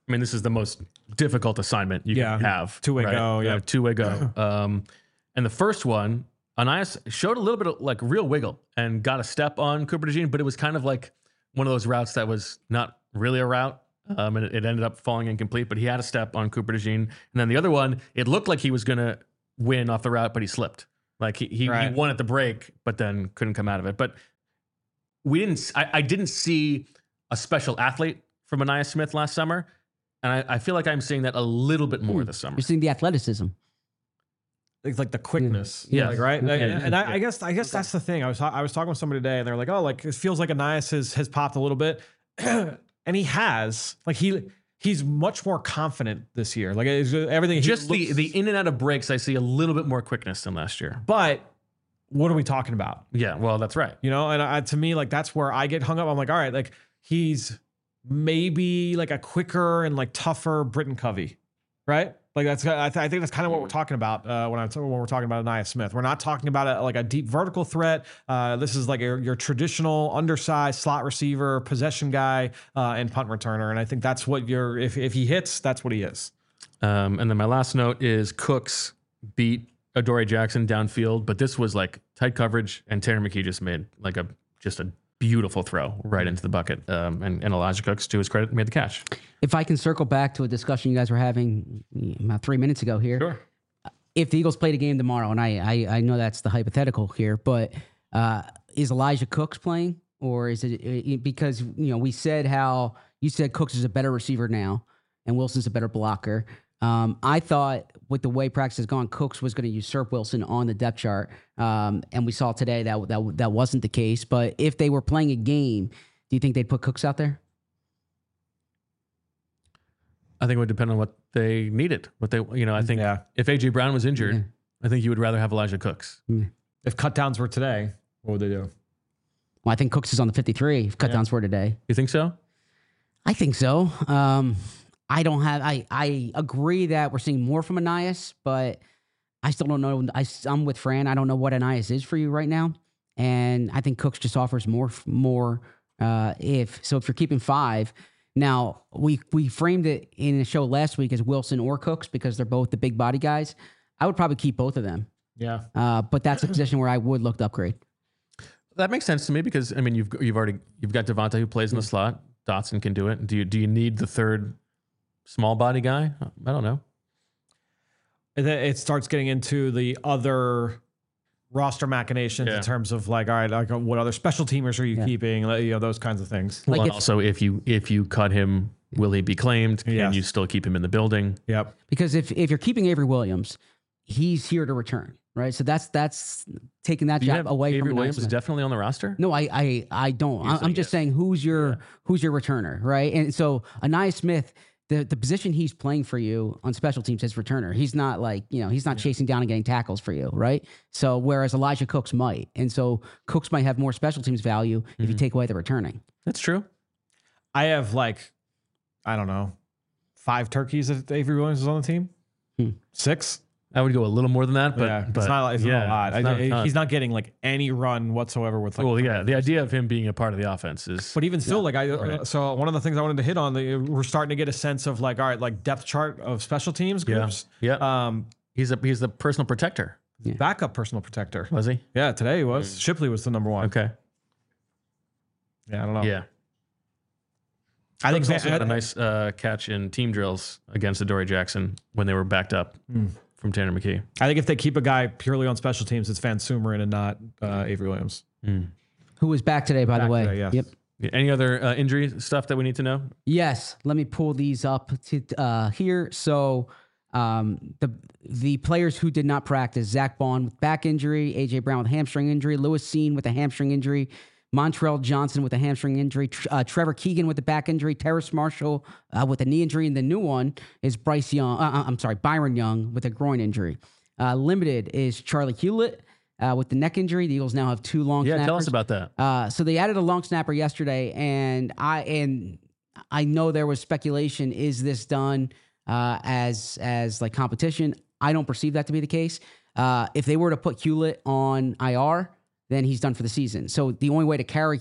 I mean, this is the most difficult assignment you Yeah. can have. Two-way go, yeah. two-way go. Um, and the first one, Anias showed a little bit of like real wiggle and got a step on Cooper DeJean, but it was kind of like one of those routes that was not really a route. Um, and it, it ended up falling incomplete, but he had a step on Cooper DeJean. And then the other one, it looked like he was going to win off the route, but he slipped. Like he he, Right. he won at the break, but then couldn't come out of it. But we didn't. I, I didn't see a special athlete from Anias Smith last summer, and I, I feel like I'm seeing that a little bit more Hmm. this summer. You're seeing the athleticism. It's like the quickness, Yeah. like, right? Yeah. And, and I, I guess I guess that's the thing. I was I was talking with somebody today, and they're like, "Oh, like it feels like Anias has has popped a little bit," and he has. Like he he's much more confident this year. Like it's, everything. he Just the looks- the in and out of breaks, I see a little bit more quickness than last year. But what are we talking about? Yeah, well, that's right. You know, and I, to me, like that's where I get hung up. I'm like, all right, like he's maybe like a quicker and like tougher Britton Covey, right? Like that's I, th- I think that's kind of what we're talking about uh, when I'm when we're talking about Anias Smith. We're not talking about a, like a deep vertical threat. Uh, this is like your, your traditional undersized slot receiver, possession guy, uh, and punt returner. And I think that's what you're. If if he hits, that's what he is. Um, and then my last note is Cooks beat Adoree Jackson downfield, but this was like tight coverage, and Tanner McKee just made like a just a beautiful throw right into the bucket. Um, and, and Elijah Cooks, to his credit, made the catch. If I can circle back to a discussion you guys were having about three minutes ago here. Sure. If the Eagles played a game tomorrow, and I I, I know that's the hypothetical here, but uh, is Elijah Cooks playing, or is it, it because you know we said how you said Cooks is a better receiver now, and Wilson's a better blocker. Um, I thought with the way practice has gone, Cooks was going to usurp Wilson on the depth chart, um, and we saw today that that that wasn't the case. But if they were playing a game, do you think they'd put Cooks out there? I think it would depend on what they needed. What they, you know, I think Yeah. if A J Brown was injured, Yeah. I think you would rather have Elijah Cooks. If cut downs were today, what would they do? Well, I think Cooks is on the fifty-three. If cutdowns were today. You think so? I think so. Um, I don't have. I I agree that we're seeing more from Anias, but I still don't know. I, I'm with Fran. I don't know what Anias is for you right now, and I think Cooks just offers more. More. Uh, if so, if you're keeping five, now we we framed it in the show last week as Wilson or Cooks because they're both the big body guys. I would probably keep both of them. Yeah. Uh, but that's a position where I would look to upgrade. That makes sense to me because I mean you've you've already you've got Devontae who plays in the slot. Dotson can do it. Do you do you need the third small body guy? I don't know. And then it starts getting into the other roster machinations Yeah. in terms of like, all right, like what other special teamers are you Yeah. keeping? Like, you know, those kinds of things. Well, Like and if- also if you if you cut him, will he be claimed? Can Yes. you still keep him in the building? Yep. Because if if you're keeping Avery Williams, he's here to return, right? So that's that's taking that Do you job have away Avery from Anias Williams is Smith. definitely on the roster? No, I I I don't. You're I, I'm saying just yes. saying who's your who's your returner, right? And so Anias Smith, the the position he's playing for you on special teams is returner. He's not like you know he's not chasing down and getting tackles for you, right? So whereas Elijah Cooks might, and so Cooks might have more special teams value if you take away the returning. That's true. I have like, I don't know, five turkeys that Avery Williams is on the team. Hmm. Six. I would go a little more than that, but, yeah, but it's not. It's yeah, not a lot. it's I- not a I- ton. he's not getting like any run whatsoever with. Like, well, yeah, the idea of him being a part of the offense is But even still, like I, Right. so one of the things I wanted to hit on, the, we're starting to get a sense of like, all right, like depth chart of special teams yeah, groups. yeah. Um, he's a he's the personal protector, backup personal protector. was he? Yeah, today he was. Shipley was the number one. Okay, Yeah, I don't know. yeah. I think Cooks also I- had a nice uh, catch in team drills against Adoree Jackson when they were backed up Hmm. from Tanner McKee. I think if they keep a guy purely on special teams, it's Van Sumeren and not uh, Avery Williams. Who was back today, by Back the way? today, yes. Yep. Any other uh, injury stuff that we need to know? Yes, let me pull these up to uh, here. So um, the the players who did not practice: Zach Bond with back injury, A J Brown with hamstring injury, Lewis Seen with a hamstring injury, Montrell Johnson with a hamstring injury, Tr- uh, Trevor Keegan with the back injury, Terrace Marshall uh, with a knee injury, and the new one is Bryce Young. Uh, I'm sorry, Byron Young with a groin injury. Uh, limited is Charlie Hewlett uh, with the neck injury. The Eagles now have two long Yeah, snappers. tell us about that. Uh, so they added a long snapper yesterday, and I and I know there was speculation: is this done uh, as as like competition? I don't perceive that to be the case. Uh, if they were to put Hewlett on I R, then he's done for the season. So the only way to carry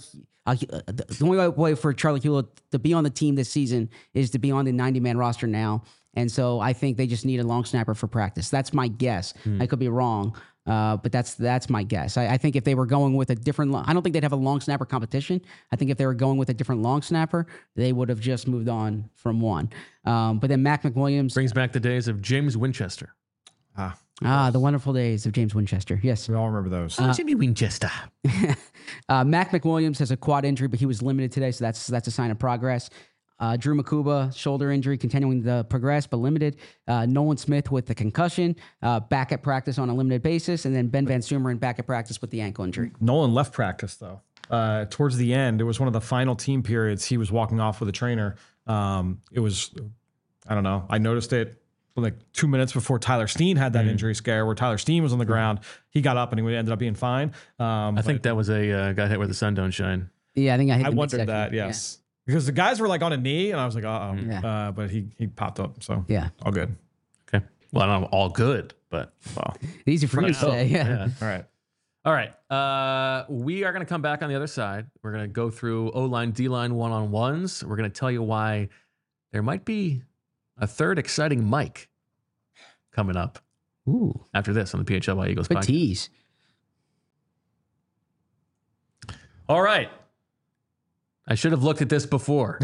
Uh, he- uh, the the only way for Charlie Hewlett to be on the team this season is to be on the ninety-man roster now. And so I think they just need a long snapper for practice. That's my guess. I could be wrong, uh, but that's that's my guess. I, I think if they were going with a different, lo- I don't think they'd have a long snapper competition. I think if they were going with a different long snapper, they would have just moved on from one. Um, but then Mac McWilliams, Brings back the days of James Winchester. Ah, ah, the wonderful days of James Winchester. Yes. we all remember those. Oh, Jimmy Winchester. uh, Mac McWilliams has a quad injury, but he was limited today, so that's that's a sign of progress. Uh, Drew Makuba, shoulder injury, continuing to progress, but limited. Uh, Nolan Smith with the concussion, uh, back at practice on a limited basis. And then Ben Van Sumeren back at practice with the ankle injury. Nolan left practice though. Uh, towards the end, it was one of the final team periods. He was walking off with a trainer. Um, it was, I don't know. I noticed it like two minutes before Tyler Steen had that injury scare, where Tyler Steen was on the ground. He got up and he ended up being fine. Um, I think that was a uh, got hit where the sun don't shine. Yeah, I think I hit I the wondered midsection. that. Yeah. Yes, because the guys were like on a knee, and I was like, uh oh. Yeah. Uh, but he he popped up, so Yeah. all good. Okay. Well, I don't know, all good, but well. Easy for you to now, say. Yeah. All right. All right. Uh, we are going to come back on the other side. We're going to go through O-line, D-line one-on-ones. We're going to tell you why there might be a third exciting mic coming up Ooh, after this on the P H L Y Eagles good podcast. tease. All right. I should have looked at this before,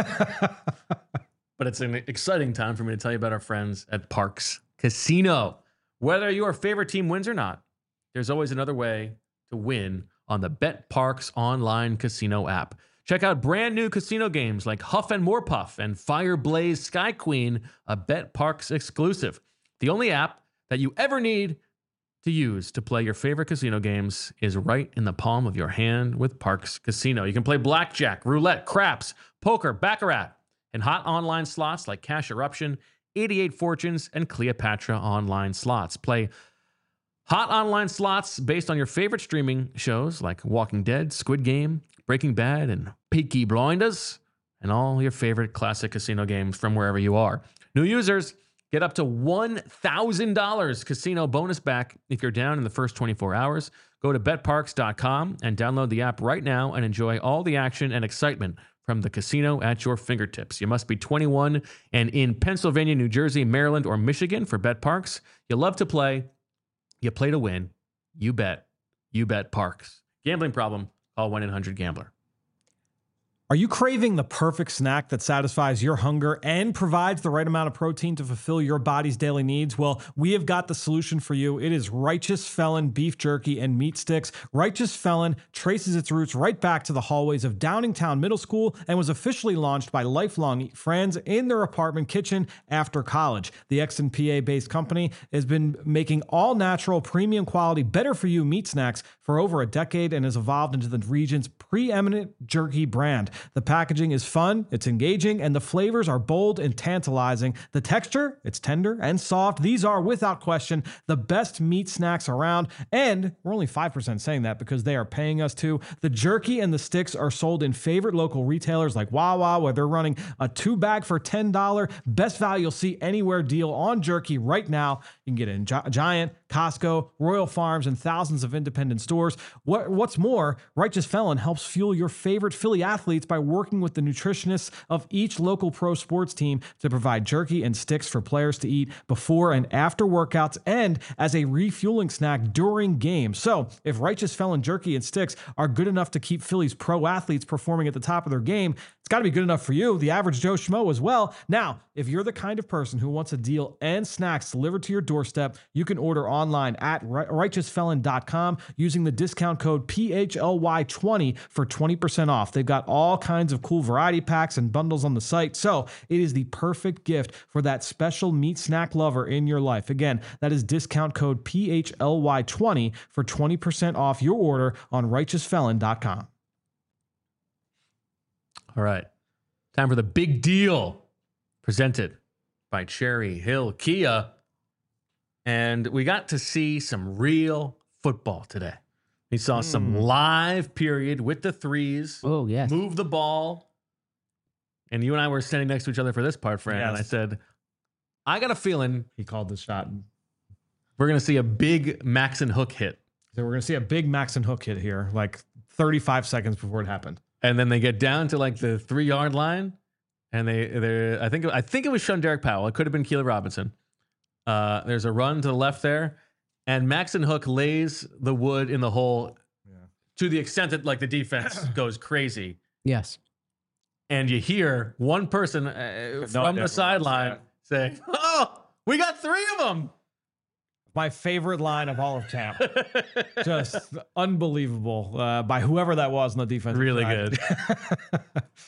but it's an exciting time for me to tell you about our friends at Parks Casino. Whether your favorite team wins or not, there's always another way to win on the Bet Parks online casino app. Check out brand new casino games like Huff and More Puff and Fire Blaze Sky Queen, a Bet Parks exclusive. The only app that you ever need to use to play your favorite casino games is right in the palm of your hand with Parks Casino. You can play blackjack, roulette, craps, poker, baccarat, and hot online slots like Cash Eruption, eighty-eight Fortunes, and Cleopatra online slots. Play hot online slots based on your favorite streaming shows like Walking Dead, Squid Game, Breaking Bad, and Peaky Blinders, and all your favorite classic casino games from wherever you are. New users get up to one thousand dollars casino bonus back if you're down in the first twenty-four hours. Go to bet parks dot com and download the app right now and enjoy all the action and excitement from the casino at your fingertips. You must be twenty-one and in Pennsylvania, New Jersey, Maryland, or Michigan for Bet Parks. You love to play. You play to win. You bet. You bet Parks. Gambling problem? Call one eight hundred gambler. Are you craving the perfect snack that satisfies your hunger and provides the right amount of protein to fulfill your body's daily needs? Well, we have got the solution for you. It is Righteous Felon beef jerky and meat sticks. Righteous Felon traces its roots right back to the hallways of Downingtown Middle School and was officially launched by lifelong friends in their apartment kitchen after college. The Exton P A-based company has been making all-natural, premium quality, better-for-you meat snacks for over a decade and has evolved into the region's preeminent jerky brand. The packaging is fun, it's engaging, and the flavors are bold and tantalizing. The texture, it's tender and soft. These are, without question, the best meat snacks around, and we're only five percent saying that because they are paying us to. The jerky and the sticks are sold in favorite local retailers like Wawa, where they're running a two-bag for ten dollars. Best value you'll see anywhere deal on jerky right now. You can get it in Gi- Giant, Costco, Royal Farms, and thousands of independent stores. What, what's more, Righteous Felon helps fuel your favorite Philly athletes by working with the nutritionists of each local pro sports team to provide jerky and sticks for players to eat before and after workouts and as a refueling snack during games. So if Righteous Felon jerky and sticks are good enough to keep Philly's pro athletes performing at the top of their game, it's got to be good enough for you, the average Joe Schmo, as well. Now, if you're the kind of person who wants a deal and snacks delivered to your doorstep, you can order online at righteous felon dot com using the discount code P H L Y twenty for twenty percent off. They've got all kinds of cool variety packs and bundles on the site, so it is the perfect gift for that special meat snack lover in your life. Again, that is discount code P H L Y twenty for twenty percent off your order on righteous felon dot com. All right. Time for the big deal presented by Cherry Hill Kia. And we got to see some real football today. We saw some live period with the threes. Oh, yes. Move the ball. And you and I were standing next to each other for this part, Fran. And I Yes. said, I got a feeling He called the shot. we're going to see a big Max and Hook hit. So we're going to see a big Max and Hook hit here, like thirty-five seconds before it happened. and then they get down to like the three yard line, and they they I think I think it was Sean Derek Powell. It could have been Keelan Robinson. Uh, there's a run to the left there, and Maxon Hook lays the wood in the hole yeah. to the extent that like the defense goes crazy. Yes. And you hear one person uh, from the sideline say, "Oh, we got three of them." My favorite line of all of camp. Just unbelievable uh, by whoever that was on the defense. Really side. good.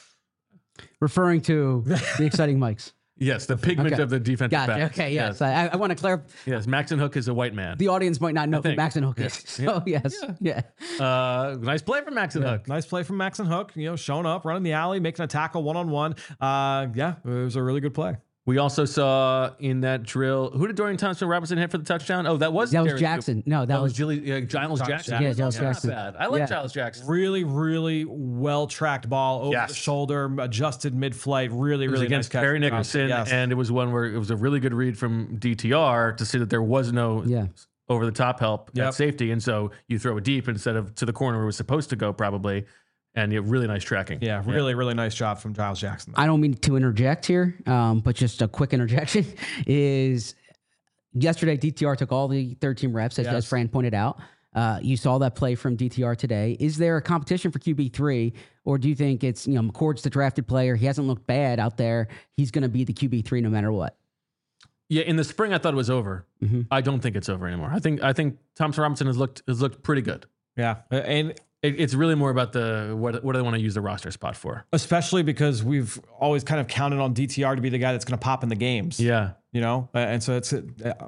Referring to the exciting mics. Yes, the pigment okay. of the defensive gotcha. back. Okay, yes. yes. I, I want to clarify. Yes, Maxon Hook is a white man. The audience might not know who Maxon Hook yeah. is. So, yeah. yes. Yeah. yeah. Uh, nice play from Maxon yeah. Hook. Nice play from Maxon Hook. You know, showing up, running the alley, making a tackle one-on-one. Uh, yeah, it was a really good play. We also saw in that drill, who did Dorian Thompson-Robinson hit for the touchdown? Oh, that was that was Darius Jackson. Cooper. No, that, that was, was Gilly, uh, Giles Jackson. Jackson. Yeah, Giles yeah, Jackson. Bad. I like yeah. Giles Jackson. Really, really well-tracked ball over yes. the shoulder, adjusted mid-flight. Really, really against nice Perry catch. Nickerson, Yes. and it was one where it was a really good read from D T R to see that there was no yeah. over-the-top help yep. at safety, and so you throw it deep instead of to the corner where it was supposed to go, probably. And yeah, really nice tracking. Yeah, really, yeah. really nice job from Giles Jackson. I don't mean to interject here, um, but just a quick interjection is yesterday D T R took all the thirteen reps, as, yes. as Fran pointed out. Uh, you saw that play from D T R today. Is there a competition for Q B three, or do you think it's, you know, McCord's the drafted player? He hasn't looked bad out there. He's going to be the Q B three no matter what. Yeah, in the spring I thought it was over. Mm-hmm. I don't think it's over anymore. I think I think Thompson Robinson has looked has looked pretty good. Yeah, and it, it's really more about the what what do they want to use the roster spot for? Especially because we've always kind of counted on D T R to be the guy that's going to pop in the games. Yeah, you know, and so it's. Uh,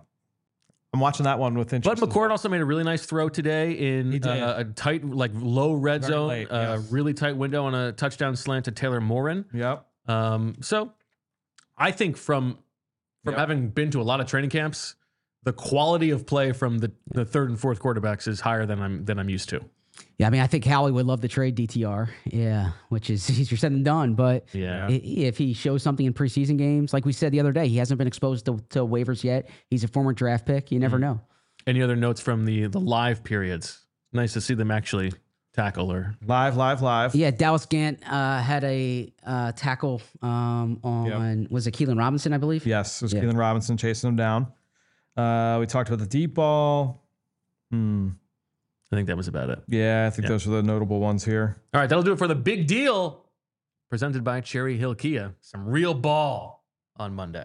I'm watching that one with interest. But McCord also made a really nice throw today in uh, a tight, like low red Very zone, late, uh, yes. really tight window on a touchdown slant to Taylor Morin. Yep. Um, so I think from from yep. having been to a lot of training camps, the quality of play from the, the third and fourth quarterbacks is higher than I'm than I'm used to. Yeah, I mean, I think Howie would love to trade D T R. Yeah, which is easier said than done. But yeah. if he shows something in preseason games, like we said the other day, he hasn't been exposed to, to waivers yet. He's a former draft pick. You never mm-hmm. know. Any other notes from the the live periods? Nice to see them actually tackle or live, live, live. Yeah, Dallas Gant uh, had a uh, tackle um, on yep. was it Keelan Robinson, I believe? Yes, it was yeah. Keelan Robinson chasing him down. Uh, we talked about the deep ball. Hmm. I think that was about it. Yeah, I think yeah. those are the notable ones here. All right, that'll do it for the big deal presented by Cherry Hill Kia. Some real ball on Monday.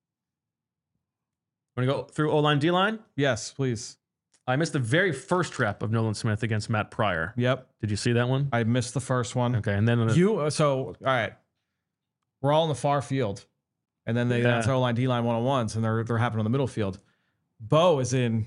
Want to go through O-line, D-line? Yes, please. I missed the very first rep of Nolan Smith against Matt Pryor. Yep. Did you see that one? I missed the first one. Okay, and then... The, you. Uh, so, all right. We're all in the far field. And then they yeah. O-line, D-line one-on-ones, and they're, they're happening on the middle field. Bo is in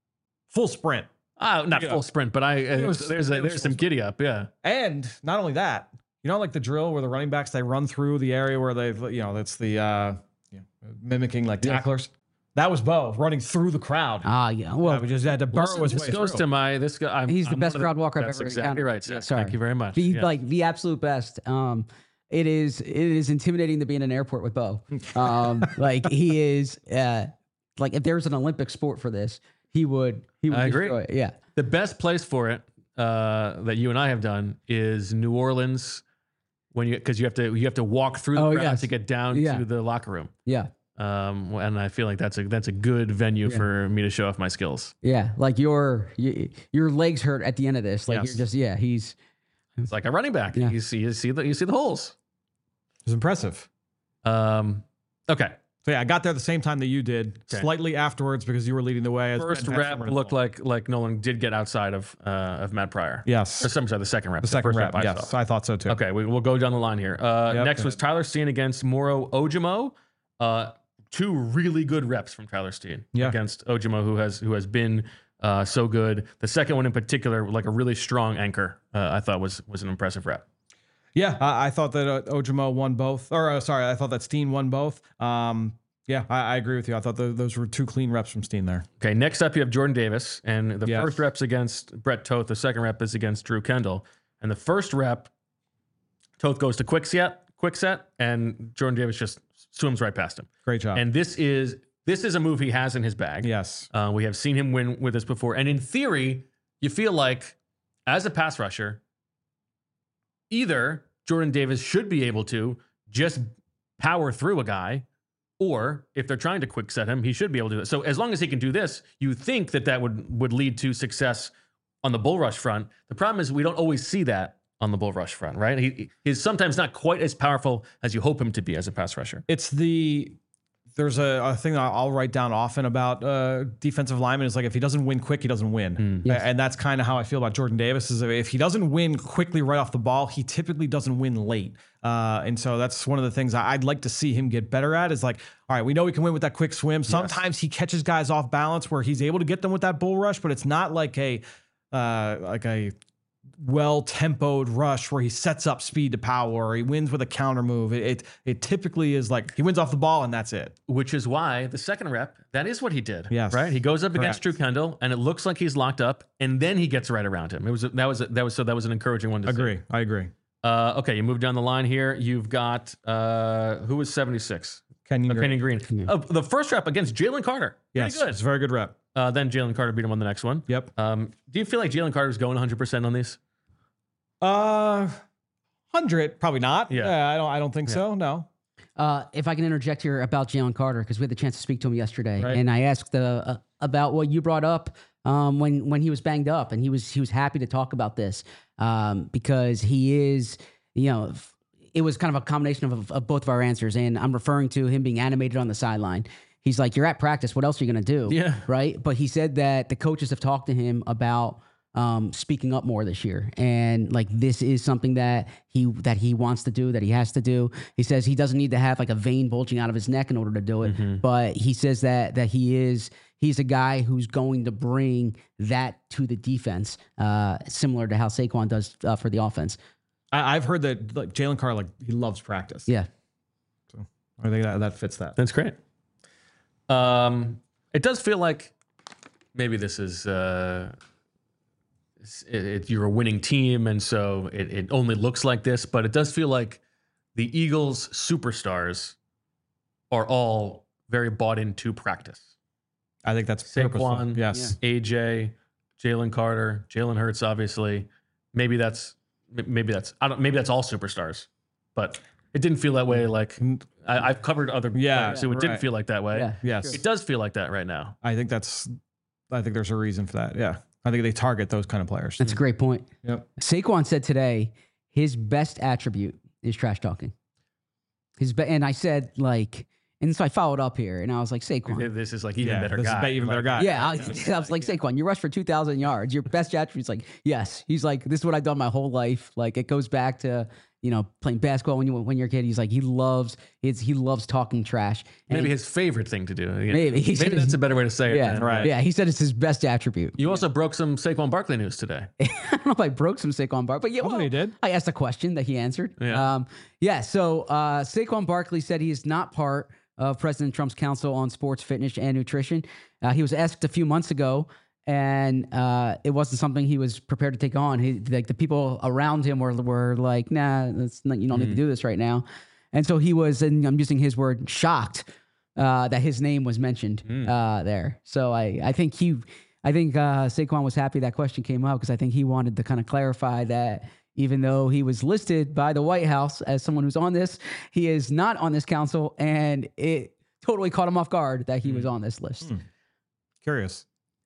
full sprint. Oh, not yeah. full sprint, but I uh, was, there's a, there's some giddy up, yeah. And not only that, you know, like the drill where the running backs, they run through the area where they, you know, that's the uh, yeah, mimicking like tacklers. Yeah. That was Bo running through the crowd. Ah, yeah. Well, yeah, we just had to burrow listen, his this way goes through. to my this guy. I'm, he's the I'm best crowd the, walker I've that's ever exactly encountered. right. Sir. Yeah, sorry. Thank you very much. The, yeah. Like the absolute best. Um, it is it is intimidating to be in an airport with Bo. Um, like he is. Uh, like if there's an Olympic sport for this, he would. He would. I agree. It. Yeah. The best place for it uh, that you and I have done is New Orleans, when you because you have to you have to walk through the oh, crowd yes. to get down yeah. to the locker room. Yeah. Um, and I feel like that's a that's a good venue yeah. for me to show off my skills. Yeah, like your you, your legs hurt at the end of this. Like yes. you're just yeah, he's it's like a running back. Yeah. You see you see the you see the holes. It was impressive. Um, okay. So yeah, I got there the same time that you did, okay. slightly afterwards because you were leading the way. As First rep looked like like Nolan did get outside of uh, of Matt Pryor. Yes. Or some sorry, the second rep. The, the second first rep. rep I yes, saw. I thought so too. Okay, we, we'll go down the line here. Uh, yep. Next was Tyler Steen against Moro Ojimo. Uh, two really good reps from Tyler Steen yeah. against Ojimo, who has who has been uh, so good. The second one in particular, like a really strong anchor, uh, I thought was was an impressive rep. Yeah, I, I thought that uh, Ojimo won both. Or uh, sorry, I thought that Steen won both. Um, yeah, I, I agree with you. I thought the, those were two clean reps from Steen there. Okay, next up you have Jordan Davis, and the yes. first rep's against Brett Toth. The second rep is against Drew Kendall, and the first rep, Toth goes to quick set, quick set, and Jordan Davis just swims right past him. Great job. And this is this is a move he has in his bag. Yes. Uh, we have seen him win with this before. And in theory, you feel like as a pass rusher, either Jordan Davis should be able to just power through a guy, or if they're trying to quick set him, he should be able to do it. So as long as he can do this, you think that that would, would lead to success on the bull rush front. The problem is we don't always see that on the bull rush front, right? He He's sometimes not quite as powerful as you hope him to be as a pass rusher. It's the there's a, a thing that I'll write down often about uh, defensive linemen is like if he doesn't win quick, he doesn't win. Mm. Yes. And that's kind of how I feel about Jordan Davis is if he doesn't win quickly right off the ball, he typically doesn't win late. Uh, and so that's one of the things I'd like to see him get better at is like, all right, we know he can win with that quick swim. Sometimes yes. he catches guys off balance where he's able to get them with that bull rush, but it's not like a uh, like a well-tempoed rush where he sets up speed to power or he wins with a counter move. It, it it typically is like he wins off the ball and that's it. Which is why the second rep, that is what he did. Yes. Right? He goes up Correct. against Drew Kendall and it looks like he's locked up and then he gets right around him. It was that was that was so that was an encouraging one to agree. see. I agree. Uh, okay, you move down the line here. You've got uh, who was seventy-six? Kenyon uh, Green. Kenyon Green. Yeah. Uh, the first rep against Jalen Carter. Yes, Pretty good. it's a very good rep. Uh, then Jalen Carter beat him on the next one. Yep. Um, do you feel like Jalen Carter's going one hundred percent on these? Uh, hundred probably not. Yeah. Yeah, I don't. I don't think Yeah. so. No. Uh, if I can interject here about Jalen Carter, because we had the chance to speak to him yesterday, Right. and I asked uh, uh, about what you brought up um, when when he was banged up, and he was he was happy to talk about this um, because he is, you know, f- it was kind of a combination of, of both of our answers, and I'm referring to him being animated on the sideline. He's like, "You're at practice. What else are you gonna do?" Yeah. Right. But he said that the coaches have talked to him about um, speaking up more this year, and like this is something that he that he wants to do, that he has to do. He says he doesn't need to have like a vein bulging out of his neck in order to do it, Mhm. but he says that that he is he's a guy who's going to bring that to the defense, uh, similar to how Saquon does uh, for the offense. I, I've heard that like Jalen Carr, like he loves practice. Yeah. So I think that, that fits that. That's great. Um, it does feel like maybe this is uh, it's- it, it, you're a winning team, and so it, it only looks like this. But it does feel like the Eagles' superstars are all very bought into practice. I think that's purposeful. Saquon, Yes. A J, Jalen Carter, Jalen Hurts, obviously. Maybe that's maybe that's I don't maybe that's all superstars, but it didn't feel that way. Like I, I've covered other Yeah, players who it didn't right. feel like that way. Yeah. Yes. It does feel like that right now. I think that's. I think there's a reason for that. Yeah. I think they target those kind of players. That's a great point. Yep. Saquon said today his best attribute is trash talking. His be- and I said like, and so I followed up here, and I was like, Saquon. This is like even Yeah, better this is guy. be- even better Like, guy. Yeah, I, I was like, Saquon, you rushed for two thousand yards. Your best attribute's like, yes. He's like, this is what I've done my whole life. Like, it goes back to, you know, playing basketball when you when you're a kid. He's like, he loves, it's, he loves talking trash. And Maybe he- his favorite thing to do. Maybe. He said Maybe that's his- a better way to say it. yeah, man. right. Yeah, he said it's his best attribute. You also broke some Saquon Barkley news today. I don't know if I broke some Saquon Barkley, but yeah, Well, well, he did. I asked a question that he answered. Yeah. Um, yeah. So uh, Saquon Barkley said he is not part of President Trump's Council on Sports, Fitness, and Nutrition. Uh, he was asked a few months ago, and uh, it wasn't something he was prepared to take on. He, like the people around him were were like, "Nah, that's not, you don't need to do this right now." And so he was, and I'm using his word, shocked uh, that his name was mentioned uh, there. So I, I think he, I think uh, Saquon was happy that question came up because I think he wanted to kind of clarify that even though he was listed by the White House as someone who's on this, he is not on this council, and it totally caught him off guard that he was on this list. Mm. Curious.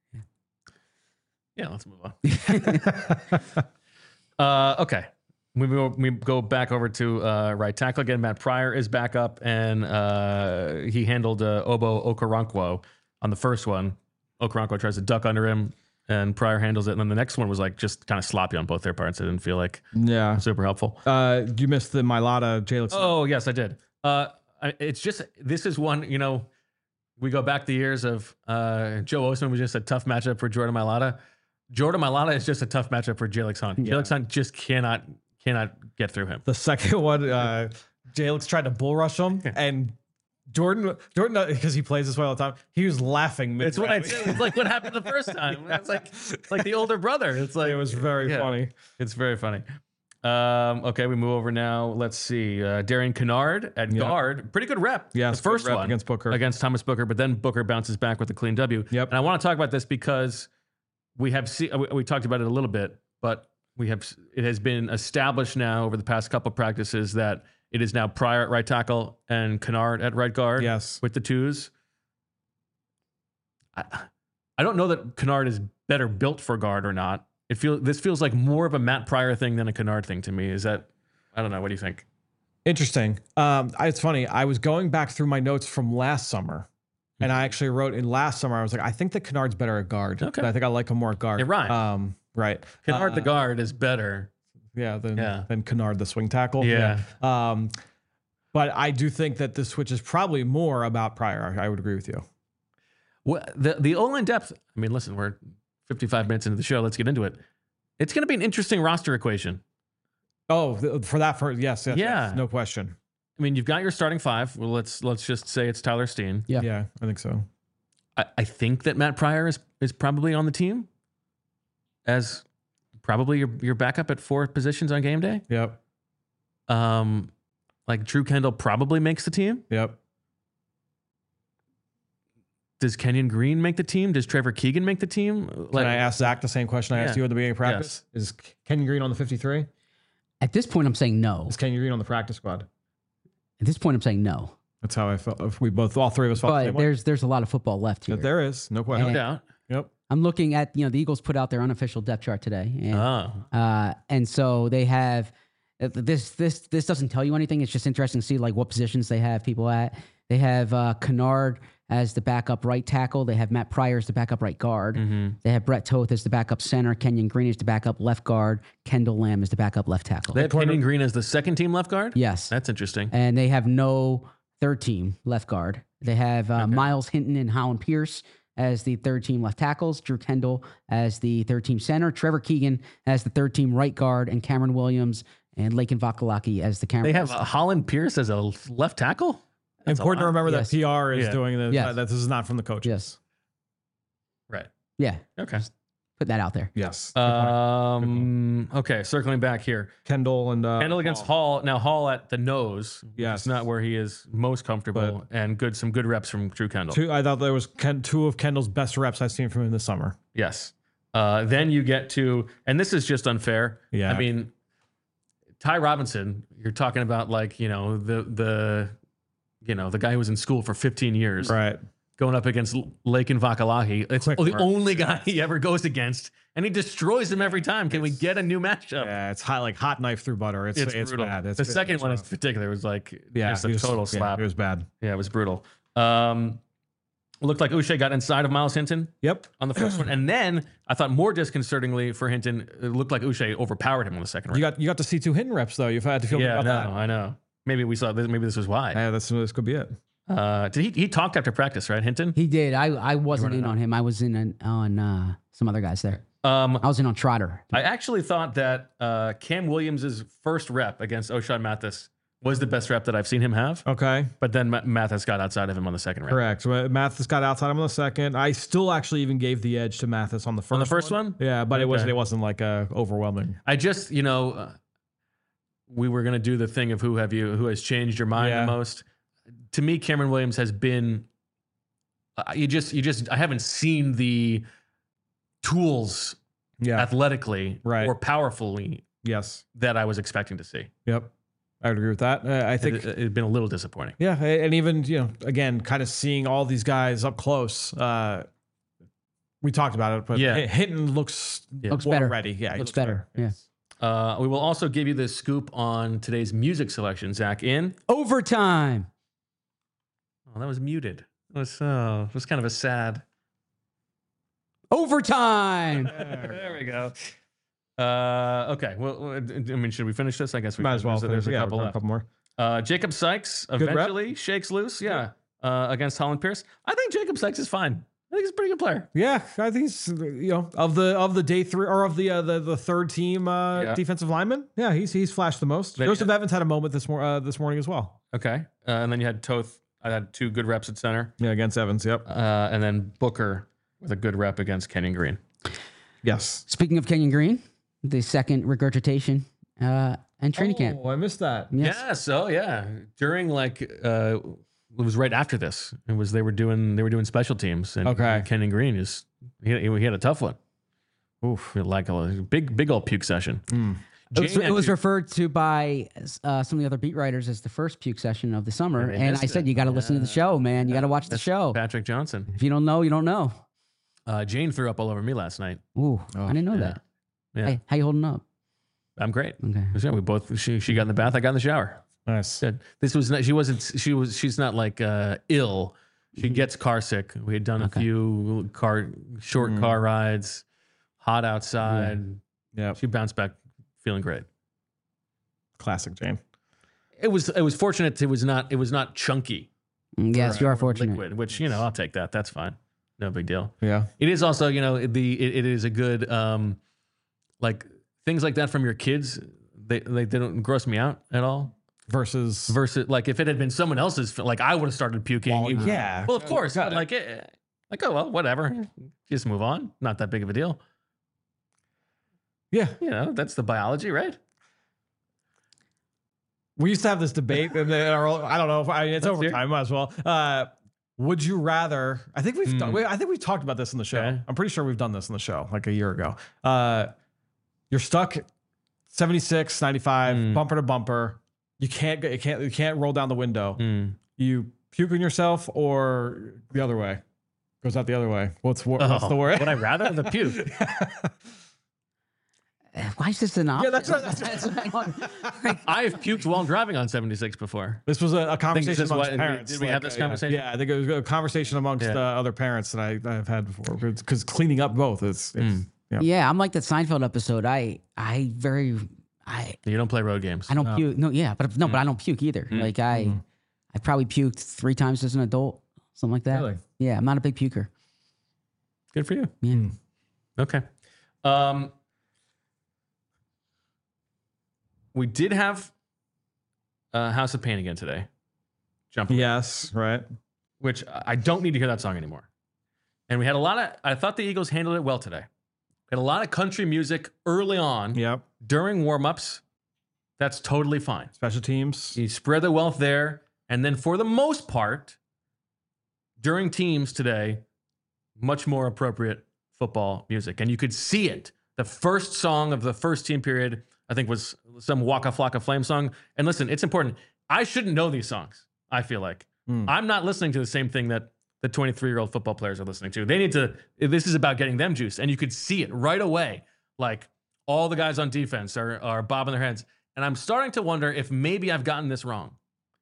Yeah, let's move on. uh, okay. We go, we go back over to uh, right tackle again. Matt Pryor is back up, and uh, he handled uh, Obo Okoronkwo on the first one. Okoronkwo tries to duck under him, and Pryor handles it. And then the next one was like just kind of sloppy on both their parts. It didn't feel like Yeah. super helpful. Uh, you missed the Mailata Jalen. Oh, yes, I did. Uh, I, it's just, this is one, you know, we go back the years of uh, Joe Osman was just a tough matchup for Jordan Mailata. Jordan Mailata is just a tough matchup for Jalix Hunt. Yeah. Jalix Hunt just cannot cannot get through him. The second one, uh, Jalix tried to bull rush him, and Jordan, Jordan, because he plays this way all the time, he was laughing. It's what I mid-rep. said. It's like what happened the first time. It's like it's like the older brother. It's like It was very Yeah. funny. It's very funny. Um, okay, we move over now. Let's see. Uh, Darian Kennard at Yep. guard. Pretty good rep. Yes, the first good rep one against Booker. Against Thomas Booker, but then Booker bounces back with a clean W. Yep. And I want to talk about this because we have see, we, we talked about it a little bit, but we have it has been established now over the past couple practices that it is now Pryor at right tackle and Kennard at right guard. Yes. With the twos. I, I don't know that Kennard is better built for guard or not. It feel this feels like more of a Matt Pryor thing than a Kennard thing to me. Is that I don't know. What do you think? Interesting. Um, I- it's funny. I was going back through my notes from last summer, and I actually wrote in last summer. I was like, I think that Kennard's better at guard. Okay. I think I like him more at guard. It rhymes. Um, right. Kennard Uh, the guard is better. Yeah. Than Yeah. than Kennard the swing tackle. Yeah. Um, but I do think that the switch is probably more about Pryor. I would agree with you. Well, the the O-line depth. I mean, listen, we're fifty-five minutes into the show. Let's get into it. It's going to be an interesting roster equation. Oh, th- for that, for yes, yes, Yeah. yes, no question. I mean, you've got your starting five. Well, let's let's just say it's Tyler Steen. Yeah. Yeah, I think so. I, I think that Matt Pryor is is probably on the team as probably your your backup at four positions on game day. Yep, Um, like Drew Kendall probably makes the team. yep. Does Kenyon Green make the team? Does Trevor Keegan make the team? Can I ask Zach the same question I asked Yeah. you at the beginning of practice? Is Kenyon Green on the fifty-three? At this point, I'm saying no. Is Kenyon Green on the practice squad? At this point, I'm saying no. That's how I felt. If we both, all three of us felt the But same way. there's there's a lot of football left here. But there is no No question. And- doubt. Yep. I'm looking at, you know, the Eagles put out their unofficial depth chart today. And, Oh, uh, and so they have uh, this this this doesn't tell you anything. It's just interesting to see like what positions they have people at. They have uh, Kennard as the backup right tackle. They have Matt Pryor as the backup right guard. mm-hmm. They have Brett Toth as the backup center. Kenyon Green as the backup left guard. Kendall Lamb as the backup left tackle. They have Kenyon Green as the second team left guard. Yes. That's interesting. And they have no third team left guard. They have uh, Okay. Miles Hinton and Holland Pierce as the third team left tackles, Drew Kendall as the third team center, Trevor Keegan as the third team right guard, and Cameron Williams and Lakin Vakalaki as the Cameron. They have uh, Holland Pierce as a left tackle. That's a Important to lot. remember Yes. that P R is Yeah. doing this. Yes. Uh, that this is not from the coaches. Yes. Right. Yeah. Okay. Put that out there. Yes. Um. Okay. Circling back here. Kendall and uh, Kendall against Hall. Now Hall at the nose. Yes. It's not where he is most comfortable, and good some good reps from Drew Kendall. two. I thought there was Ken, two of Kendall's best reps I've seen from him this summer. Yes. Uh, then you get to, and this is just unfair. Yeah. I mean, Ty Robinson. You're talking about like you know the the, you know the guy who was in school for fifteen years, Right. going up against Lakin Vakalaki. It's Quick the work. only guy he ever goes against, and he destroys him every time. Can we get a new matchup? Yeah, it's hot like hot knife through butter. It's It's, it's, brutal. bad. It's, the second it's one in rough. particular was like yeah, just a it was- total yeah, slap. it was bad. Yeah, it was brutal. Um, it looked like Uche got inside of Miles Hinton Yep. on the first one, and then I thought more disconcertingly for Hinton, it looked like Uche overpowered him on the second round. You got you got to see two Hinton reps though. You've had to feel yeah, good no, about I know. Maybe we saw this. Maybe this was why. that. Yeah, that's this could be it. Uh, did he? He talked after practice, right, Hinton? He did. I, I wasn't in running on him. I was in on, on uh, some other guys there. Um, I was in on Trotter. I actually thought that uh, Cam Williams' first rep against O'Shawn Mathis was the best rep that I've seen him have. Okay. But then Ma- Mathis got outside of him on the second round. Correct. So uh, Mathis got outside him on the second. I still actually even gave the edge to Mathis on the first On the first one? Yeah, but it Okay. wasn't it wasn't like uh, overwhelming. I just, you know, uh, we were gonna do the thing of who have you, who has changed your mind Yeah. the most. To me, Cameron Williams has been. Uh, you just, you just, I haven't seen the tools Yeah. athletically Right. or powerfully Yes. that I was expecting to see. Yep. I would agree with that. Uh, I think it, had been a little disappointing. yeah, and even you know, again, kind of seeing all these guys up close. Uh, we talked about it, but Yeah. H- Hinton looks Yeah. Looks more better. ready. Yeah, he Looks better. Yeah. Uh, we will also give you the scoop on today's music selection, Zach. In Overtime. oh, that was muted. It was uh, it was kind of a sad. Overtime. There we go. Uh, okay. Well, I mean, should we finish this? I guess we Might should. as well. So there's a yeah, couple we've got left. a couple more. Uh, Jacob Sykes rep. eventually shakes loose. Yeah. Uh, against Holland Pierce. I think Jacob Sykes is fine. I think he's a pretty good player. Yeah, I think he's you know of the of the day three or of the uh, the the third team uh, Yeah. defensive lineman. Yeah, he's he's flashed the most. But- Joseph Evans had a moment this mor- uh, this morning as well. Okay. Uh, and then you had Toth. I had two good reps at center. Yeah, against Evans. Yep. Uh, and then Booker with a good rep against Kenyon Green. Yes. Speaking of Kenyon Green, the second regurgitation uh, and training camp. Oh, I missed that. Yes. Yes. Oh, yeah. During like, uh, it was right after this. It was they were doing they were doing special teams. And Okay. Kenyon Green is he, he had a tough one. Oof. Like a big, big old puke session. Mm. It was, Jane it was actually- referred to by uh, some of the other beat writers as the first puke session of the summer. Yeah, they And missed I said, it. you got to listen to the show, man. You got to watch the That's show. Patrick Johnson. If you don't know, you don't know. Uh, Jane threw up all over me last night. Ooh, Oh, I didn't know yeah. that. Yeah. Hey, how you holding up? I'm great. Okay. Yeah, we both. She she got in the bath. I got in the shower. Nice. Good. This was not. She wasn't. She was. She's not like uh, ill. She Mhm. gets car sick. We had done Okay. a few car short Mm. car rides, hot outside. Yeah. She bounced back feeling great. Classic Jane. It was. It was fortunate. It was not. It was not chunky. Mm, Yes, you or are fortunate. Liquid, which you know, I'll take that. That's fine. No big deal. Yeah. It is also, you know, the it, it is a good um, like things like that from your kids. They they, they don't gross me out at all. Versus. Versus, like if it had been someone else's, like I would have started puking. Well, You- yeah. Well, of course, Got but it. like, eh, like oh well, whatever. Just move on. Not that big of a deal. Yeah. You know, that's the biology, right? We used to have this debate, and they are all- I don't know if I, it's Let's hear it. overtime. Might as well. Uh, would you rather? I think we've. Hmm. done- we- I think we've talked about this in the show. Okay. I'm pretty sure we've done this in the show like a year ago. Uh, you're stuck seventy-six, ninety-five, Hmm. bumper to bumper. You can't. go- You can't. You can't roll down the window. Hmm. You puke on yourself, or the other way. Goes out the other way. What's wor- what's Oh, the word? Would I rather the puke? Uh, Why is this an option? Yeah, that's right. That's right. Like, I've puked while driving on seventy-six before. This was a, a this conversation is amongst what- parents. did we have like, this uh, yeah. conversation? Yeah, I think it was a conversation amongst Yeah. uh, other parents that I, I've had before. Because cleaning up both is, it's, Mm. yeah. yeah, I'm like that Seinfeld episode. I I very I You don't play road games. I don't No. puke. No, yeah, but no, but I don't puke either. Mm. Like I Mm. I probably puked three times as an adult, something like that. Really? Yeah, I'm not a big puker. Good for you. Yeah. Mm. Okay. Um, we did have uh, House of Pain again today. Jump, Yes, right. which I don't need to hear that song anymore. And we had a lot of, I thought the Eagles handled it well today. We had a lot of country music early on Yep. during warmups. That's totally fine. Special teams. You spread the wealth there. And then for the most part, during teams today, much more appropriate football music. And you could see it. The first song of the first team period, I think, was some Waka Flocka Flame song. And listen, it's important. I shouldn't know these songs, I feel like. Mm. I'm not listening to the same thing that the twenty-three-year-old football players are listening to. They need to, this is about getting them juice. And you could see it right away. Like all the guys on defense are, are bobbing their heads. And I'm starting to wonder if maybe I've gotten this wrong.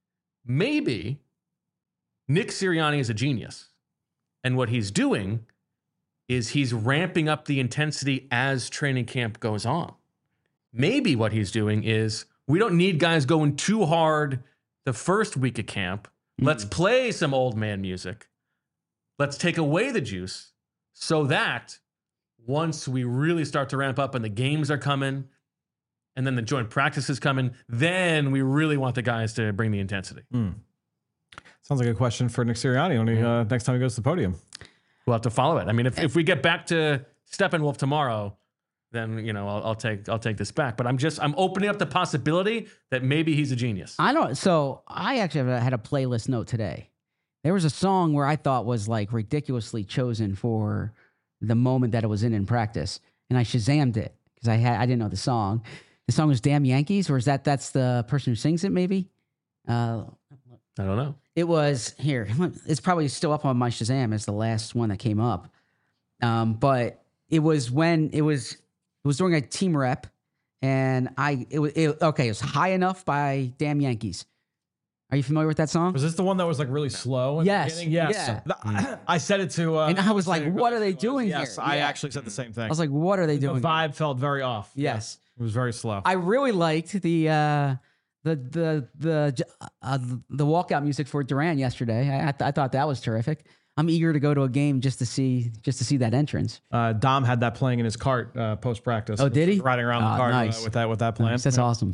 Maybe Nick Sirianni is a genius. And what he's doing is he's ramping up the intensity as training camp goes on. Maybe what he's doing is we don't need guys going too hard the first week of camp. Let's play some old man music. Let's take away the juice so that once we really start to ramp up and the games are coming and then the joint practice is coming, then we really want the guys to bring the intensity. Mm. Sounds like a question for Nick Sirianni when he, uh, next time he goes to the podium. We'll have to follow it. I mean, if, if we get back to Steppenwolf tomorrow, then you know I'll, I'll take I'll take this back. But I'm just I'm opening up the possibility that maybe he's a genius. I don't. So I actually had a playlist note today. There was a song where I thought was like ridiculously chosen for the moment that it was in in practice, and I Shazammed it because I had I didn't know the song. The song was "Damn Yankees," or is that that's the person who sings it? Maybe. Uh, I don't know. It was here. It's probably still up on my Shazam. It's the last one that came up. Um, but it was when it was it was during a team rep, and I it was it, okay. It was "High Enough" by Damn Yankees. Are you familiar with that song? Was this the one that was like really slow? In Yes, The beginning? Yes. yeah. Th- I said it to. Uh, And I was like, saying- what are they doing Yes, here? I Yeah. actually said the same thing. I was like, what are they the doing? vibe felt very off. Yes. It was very slow. I really liked the uh, the the the uh, the walkout music for Duran yesterday. I I, th- I thought that was terrific. I'm eager to go to a game just to see just to see that entrance. Uh, Dom had that playing in his cart uh, post practice. Oh, did he? Riding around Oh, the cart nice. uh, with that with that plan. That's awesome.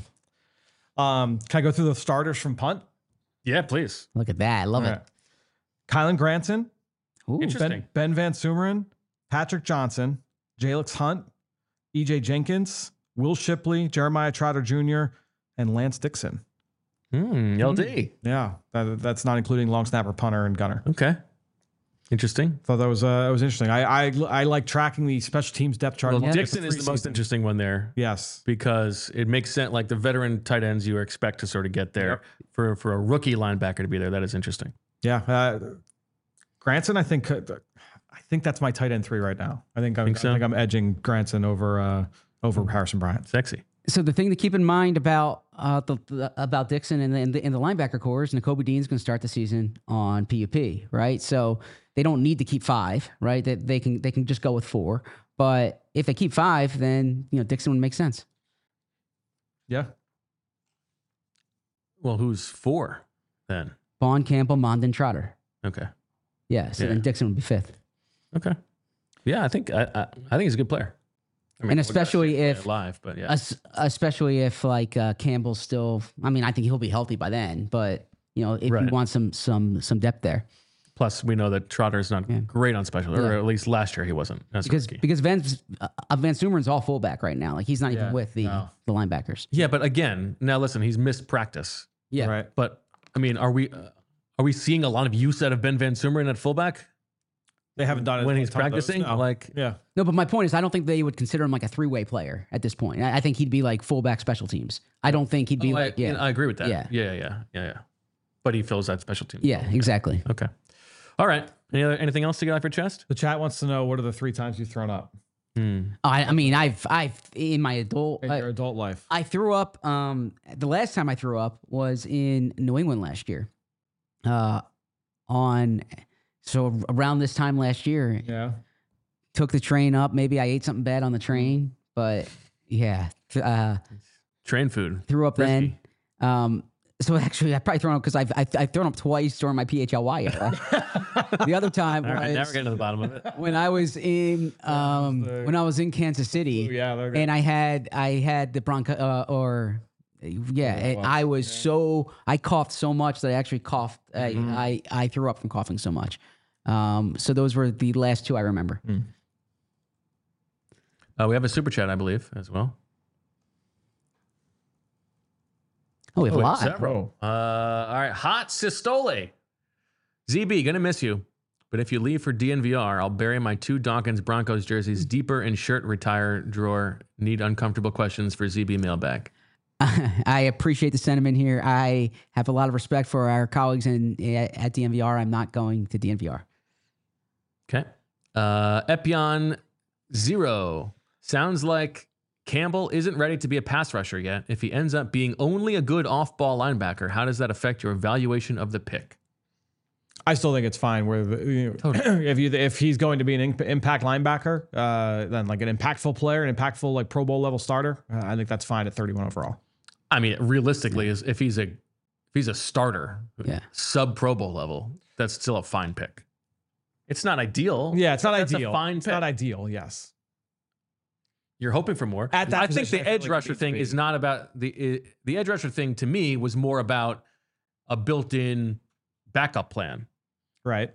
Um, can I go through the starters from punt? Yeah, please. Look at that. I love All it. right. Kylan Granson, Ooh. Interesting. Ben, Ben Van Sumeren, Patrick Johnson, Jalix Hunt, E J Jenkins, Will Shipley, Jeremiah Trotter Junior, and Lance Dixon. Hmm, L D. Yeah, that, that's not including long snapper, punter, and gunner. Okay. Interesting. Thought that was uh, that was interesting. I, I I like tracking the special teams depth chart. Well, Look at Dixon is the most preseason. interesting one there. Yes. Because it makes sense. Like the veteran tight ends you expect to sort of get there. Yep. For, for a rookie linebacker to be there, that is interesting. Yeah. Uh, Granson, I think uh, I think that's my tight end three right now. I think I'm, Think so? I think I'm edging Granson over uh, over Harrison Bryant. Sexy. So the thing to keep in mind about uh, the, the about Dixon and the, in the in the linebacker core is Nakobe Dean's going to start the season on P U P, right? So they don't need to keep five, right? That they, they can they can just go with four. But if they keep five, then you know Dixon would make sense. Yeah. Well, who's four then? Bond, Campbell, Mondin, Trotter. Okay. Yeah. So Yeah. then Dixon would be fifth. Okay. Yeah, I think I I, I think he's a good player. I mean, And we gotta especially see him if- play live, but yeah, Es- especially if like uh, Campbell's still. I mean, I think he'll be healthy by then. But you know, if Right. you want some some some depth there, plus we know that Trotter's not Yeah. great on special, or Yeah. at least last year he wasn't. As a because rookie. because Van uh, Van Sumeren's all fullback right now. Like he's not even Yeah, with the no. the linebackers. Yeah, but again, now listen, he's missed practice. Yeah. Right. But I mean, are we uh, are we seeing a lot of use out of Ben Van Sumeren at fullback They haven't done it when he's a ton of those, practicing? no. Like, yeah. No, but my point is, I don't think they would consider him like a three way player at this point. I, I think he'd be like fullback special teams. I don't think he'd be oh, I, like yeah I agree with that. Yeah. Yeah, yeah, yeah, yeah, yeah. But he fills that special team. yeah exactly. Okay. All right. Any other anything else to get off your chest? The chat wants to know what are the three times you've thrown up Hmm. I, I mean, I've I've in my adult. in I, your adult life. I threw up. Um, the last time I threw up was in New England last year. Uh, on so around this time last year, Yeah. took the train up. Maybe I ate something bad on the train, but yeah, th- uh, Train food. threw up Risky. then. Um, so actually, I probably thrown up because I've, I've I've thrown up twice during my P H L Y era. The other time All right, now we're was getting to the bottom of it. when I was in um the- when I was in Kansas City. Ooh, yeah. they're good. And I had I had the bronchi uh, or yeah, and well, I was so I coughed so much that I actually coughed. Mm-hmm. I, I I threw up from coughing so much. Um, so those were the last two I remember. Uh, we have a super chat, I believe, as well. Oh, we have Oh, a we have lot. several. Uh, all right, Hot Sistole. Z B, gonna miss you. But if you leave for D N V R, I'll bury my two Dawkins Broncos jerseys deeper in shirt retire drawer. Need uncomfortable questions for Z B mailbag. I appreciate the sentiment here. I have a lot of respect for our colleagues in at D N V R. I'm not going to D N V R. Okay. Uh, Epion Zero. Sounds like Campbell isn't ready to be a pass rusher yet. If he ends up being only a good off-ball linebacker, how does that affect your evaluation of the pick? I still think it's fine. Where the, you know, Totally. if you if he's going to be an imp- impact linebacker, uh, then like an impactful player, an impactful like Pro Bowl level starter, uh, I think that's fine at thirty-one overall. I mean, realistically, is if he's a if he's a starter, Yeah. sub Pro Bowl level, that's still a fine pick. It's not ideal. Yeah, it's not That's ideal. a fine it's pick. not ideal. Yes. You're hoping for more. At that I think position, the I feel edge like it rusher needs to thing be. is not about the uh, the edge rusher thing. To me, was more about a built-in backup plan Right.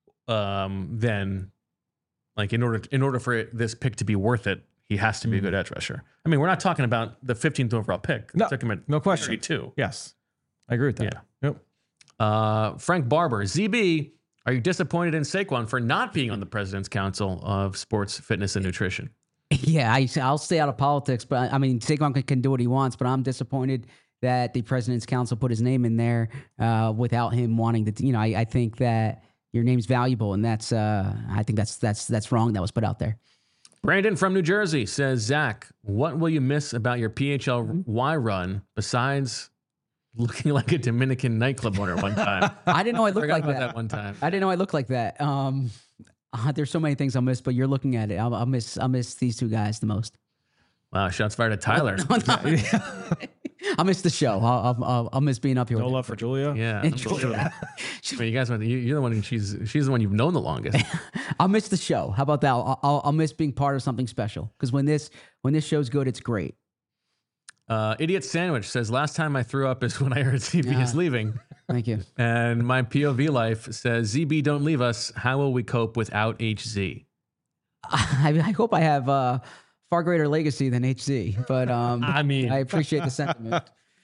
um, than like in order in order for it, this pick to be worth it, he has to be a good edge rusher. I mean, we're not talking about the fifteenth overall pick. No, Took him at no question. thirty-two. Yes. I agree with that. Yeah. Yep. Uh, Frank Barber, Z B, are you disappointed in Saquon for not being on the President's Council of Sports, Fitness, and Nutrition? Yeah, I, I'll stay out of politics, but I mean, Saquon can, can do what he wants, but I'm disappointed that the President's Council put his name in there uh, without him wanting to. You know, I, I think that your name's valuable, and that's uh, I think that's that's that's wrong. That was put out there. Brandon from New Jersey says, Zach, what will you miss about your P H L Y run besides looking like a Dominican nightclub owner one time? I didn't know I looked Forgot like about that. that one time. I didn't know I looked like that. Um, uh, there's so many things I'll miss, but you're looking at it. I'll, I'll miss I'll miss these two guys the most. Wow, shots fired at Tyler. I'll miss the show. I'll, I'll, I'll miss being up here. No with love for Julia. Yeah. And unbelievable. Julia. I mean, you guys, went- you- you're the one. who- She's she's the one you've known the longest. I'll miss the show. How about that? I'll, I'll, I'll miss being part of something special because when this when this show's good, it's great. Uh, Idiot Sandwich says, last time I threw up is when I heard Z B is Yeah. leaving. Thank you. And my P O V life says, Z B, don't leave us. How will we cope without H Z? I, I hope I have uh, far greater legacy than H Z, but um, I mean, I appreciate the sentiment.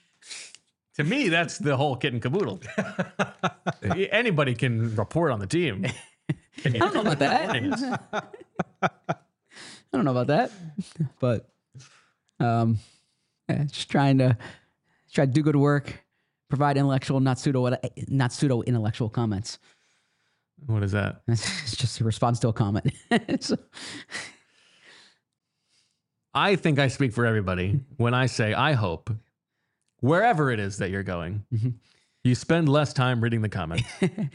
to me, that's the whole kit and caboodle. Anybody can report on the team. I don't know about that. I don't know about that, but um, yeah, just trying to try to do good work, provide intellectual, not pseudo, not pseudo intellectual comments. What is that? It's just a response to a comment. So, I think I speak for everybody when I say I hope wherever it is that you're going, mm-hmm. you spend less time reading the comments.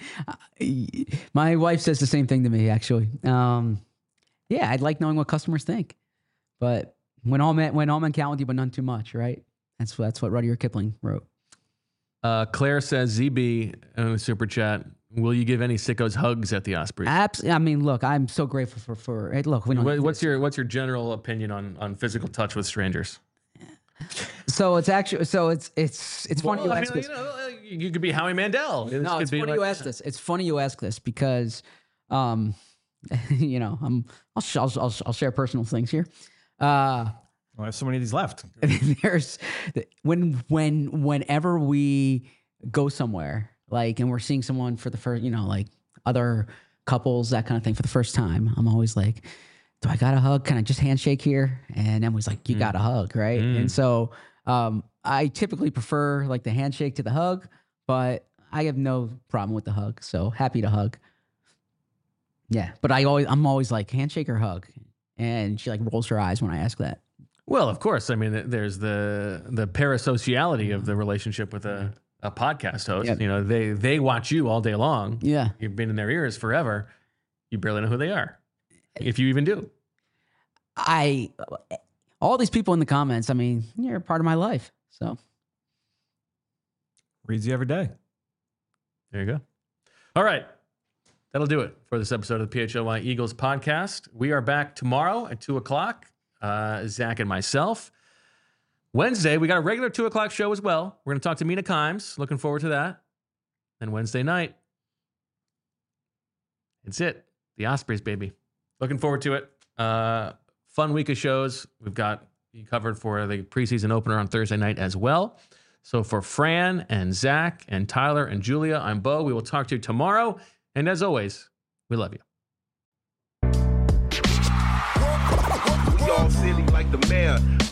My wife says the same thing to me, actually. Um, yeah, I'd like knowing what customers think, but when all men when all men count with you, but none too much, right? That's that's what Rudyard Kipling wrote. Uh, Claire says, Z B in the super chat, will you give any sickos hugs at the Ospreys? Absolutely. I mean, look, I'm so grateful for for. Hey, look, we don't. What, what's your what's your general opinion on on physical touch with strangers? So it's actually so it's it's it's funny well, you I ask mean, this. You, know, you could be Howie Mandel. This no, it's funny like, you ask this. It's funny you ask this because, um, you know, I'm I'll sh- I'll, I'll I'll share personal things here. Uh, well, I have so many of these left. There's when when whenever we go somewhere like and we're seeing someone for the first, you know, like other couples, that kind of thing for the first time, I'm always like, do I got a hug? Can I just handshake here? And Emily's like, you mm. got a hug, right? Mm. And so um, I typically prefer like the handshake to the hug, but I have no problem with the hug. So happy to hug. Yeah, but I always I'm always like handshake or hug, and she like rolls her eyes when I ask that. Well, of course. I mean, there's the the parasociality of the relationship with a, a podcast host. Yep. You know, they they watch you all day long. Yeah, you've been in their ears forever. You barely know who they are, if you even do. I, all these people in the comments, I mean, you're a part of my life. So. Reads you every day. There you go. All right. That'll do it for this episode of the P H L Y Eagles podcast. We are back tomorrow at two o'clock, uh, Zach and myself. Wednesday, we got a regular two o'clock show as well. We're going to talk to Mina Kimes. Looking forward to that. And Wednesday night, it's it. The Ospreys, baby. Looking forward to it. Uh, fun week of shows. We've got you covered for the preseason opener on Thursday night as well. So for Fran and Zach and Tyler and Julia, I'm Bo. We will talk to you tomorrow. And as always, we love you. We all silly like the mayor.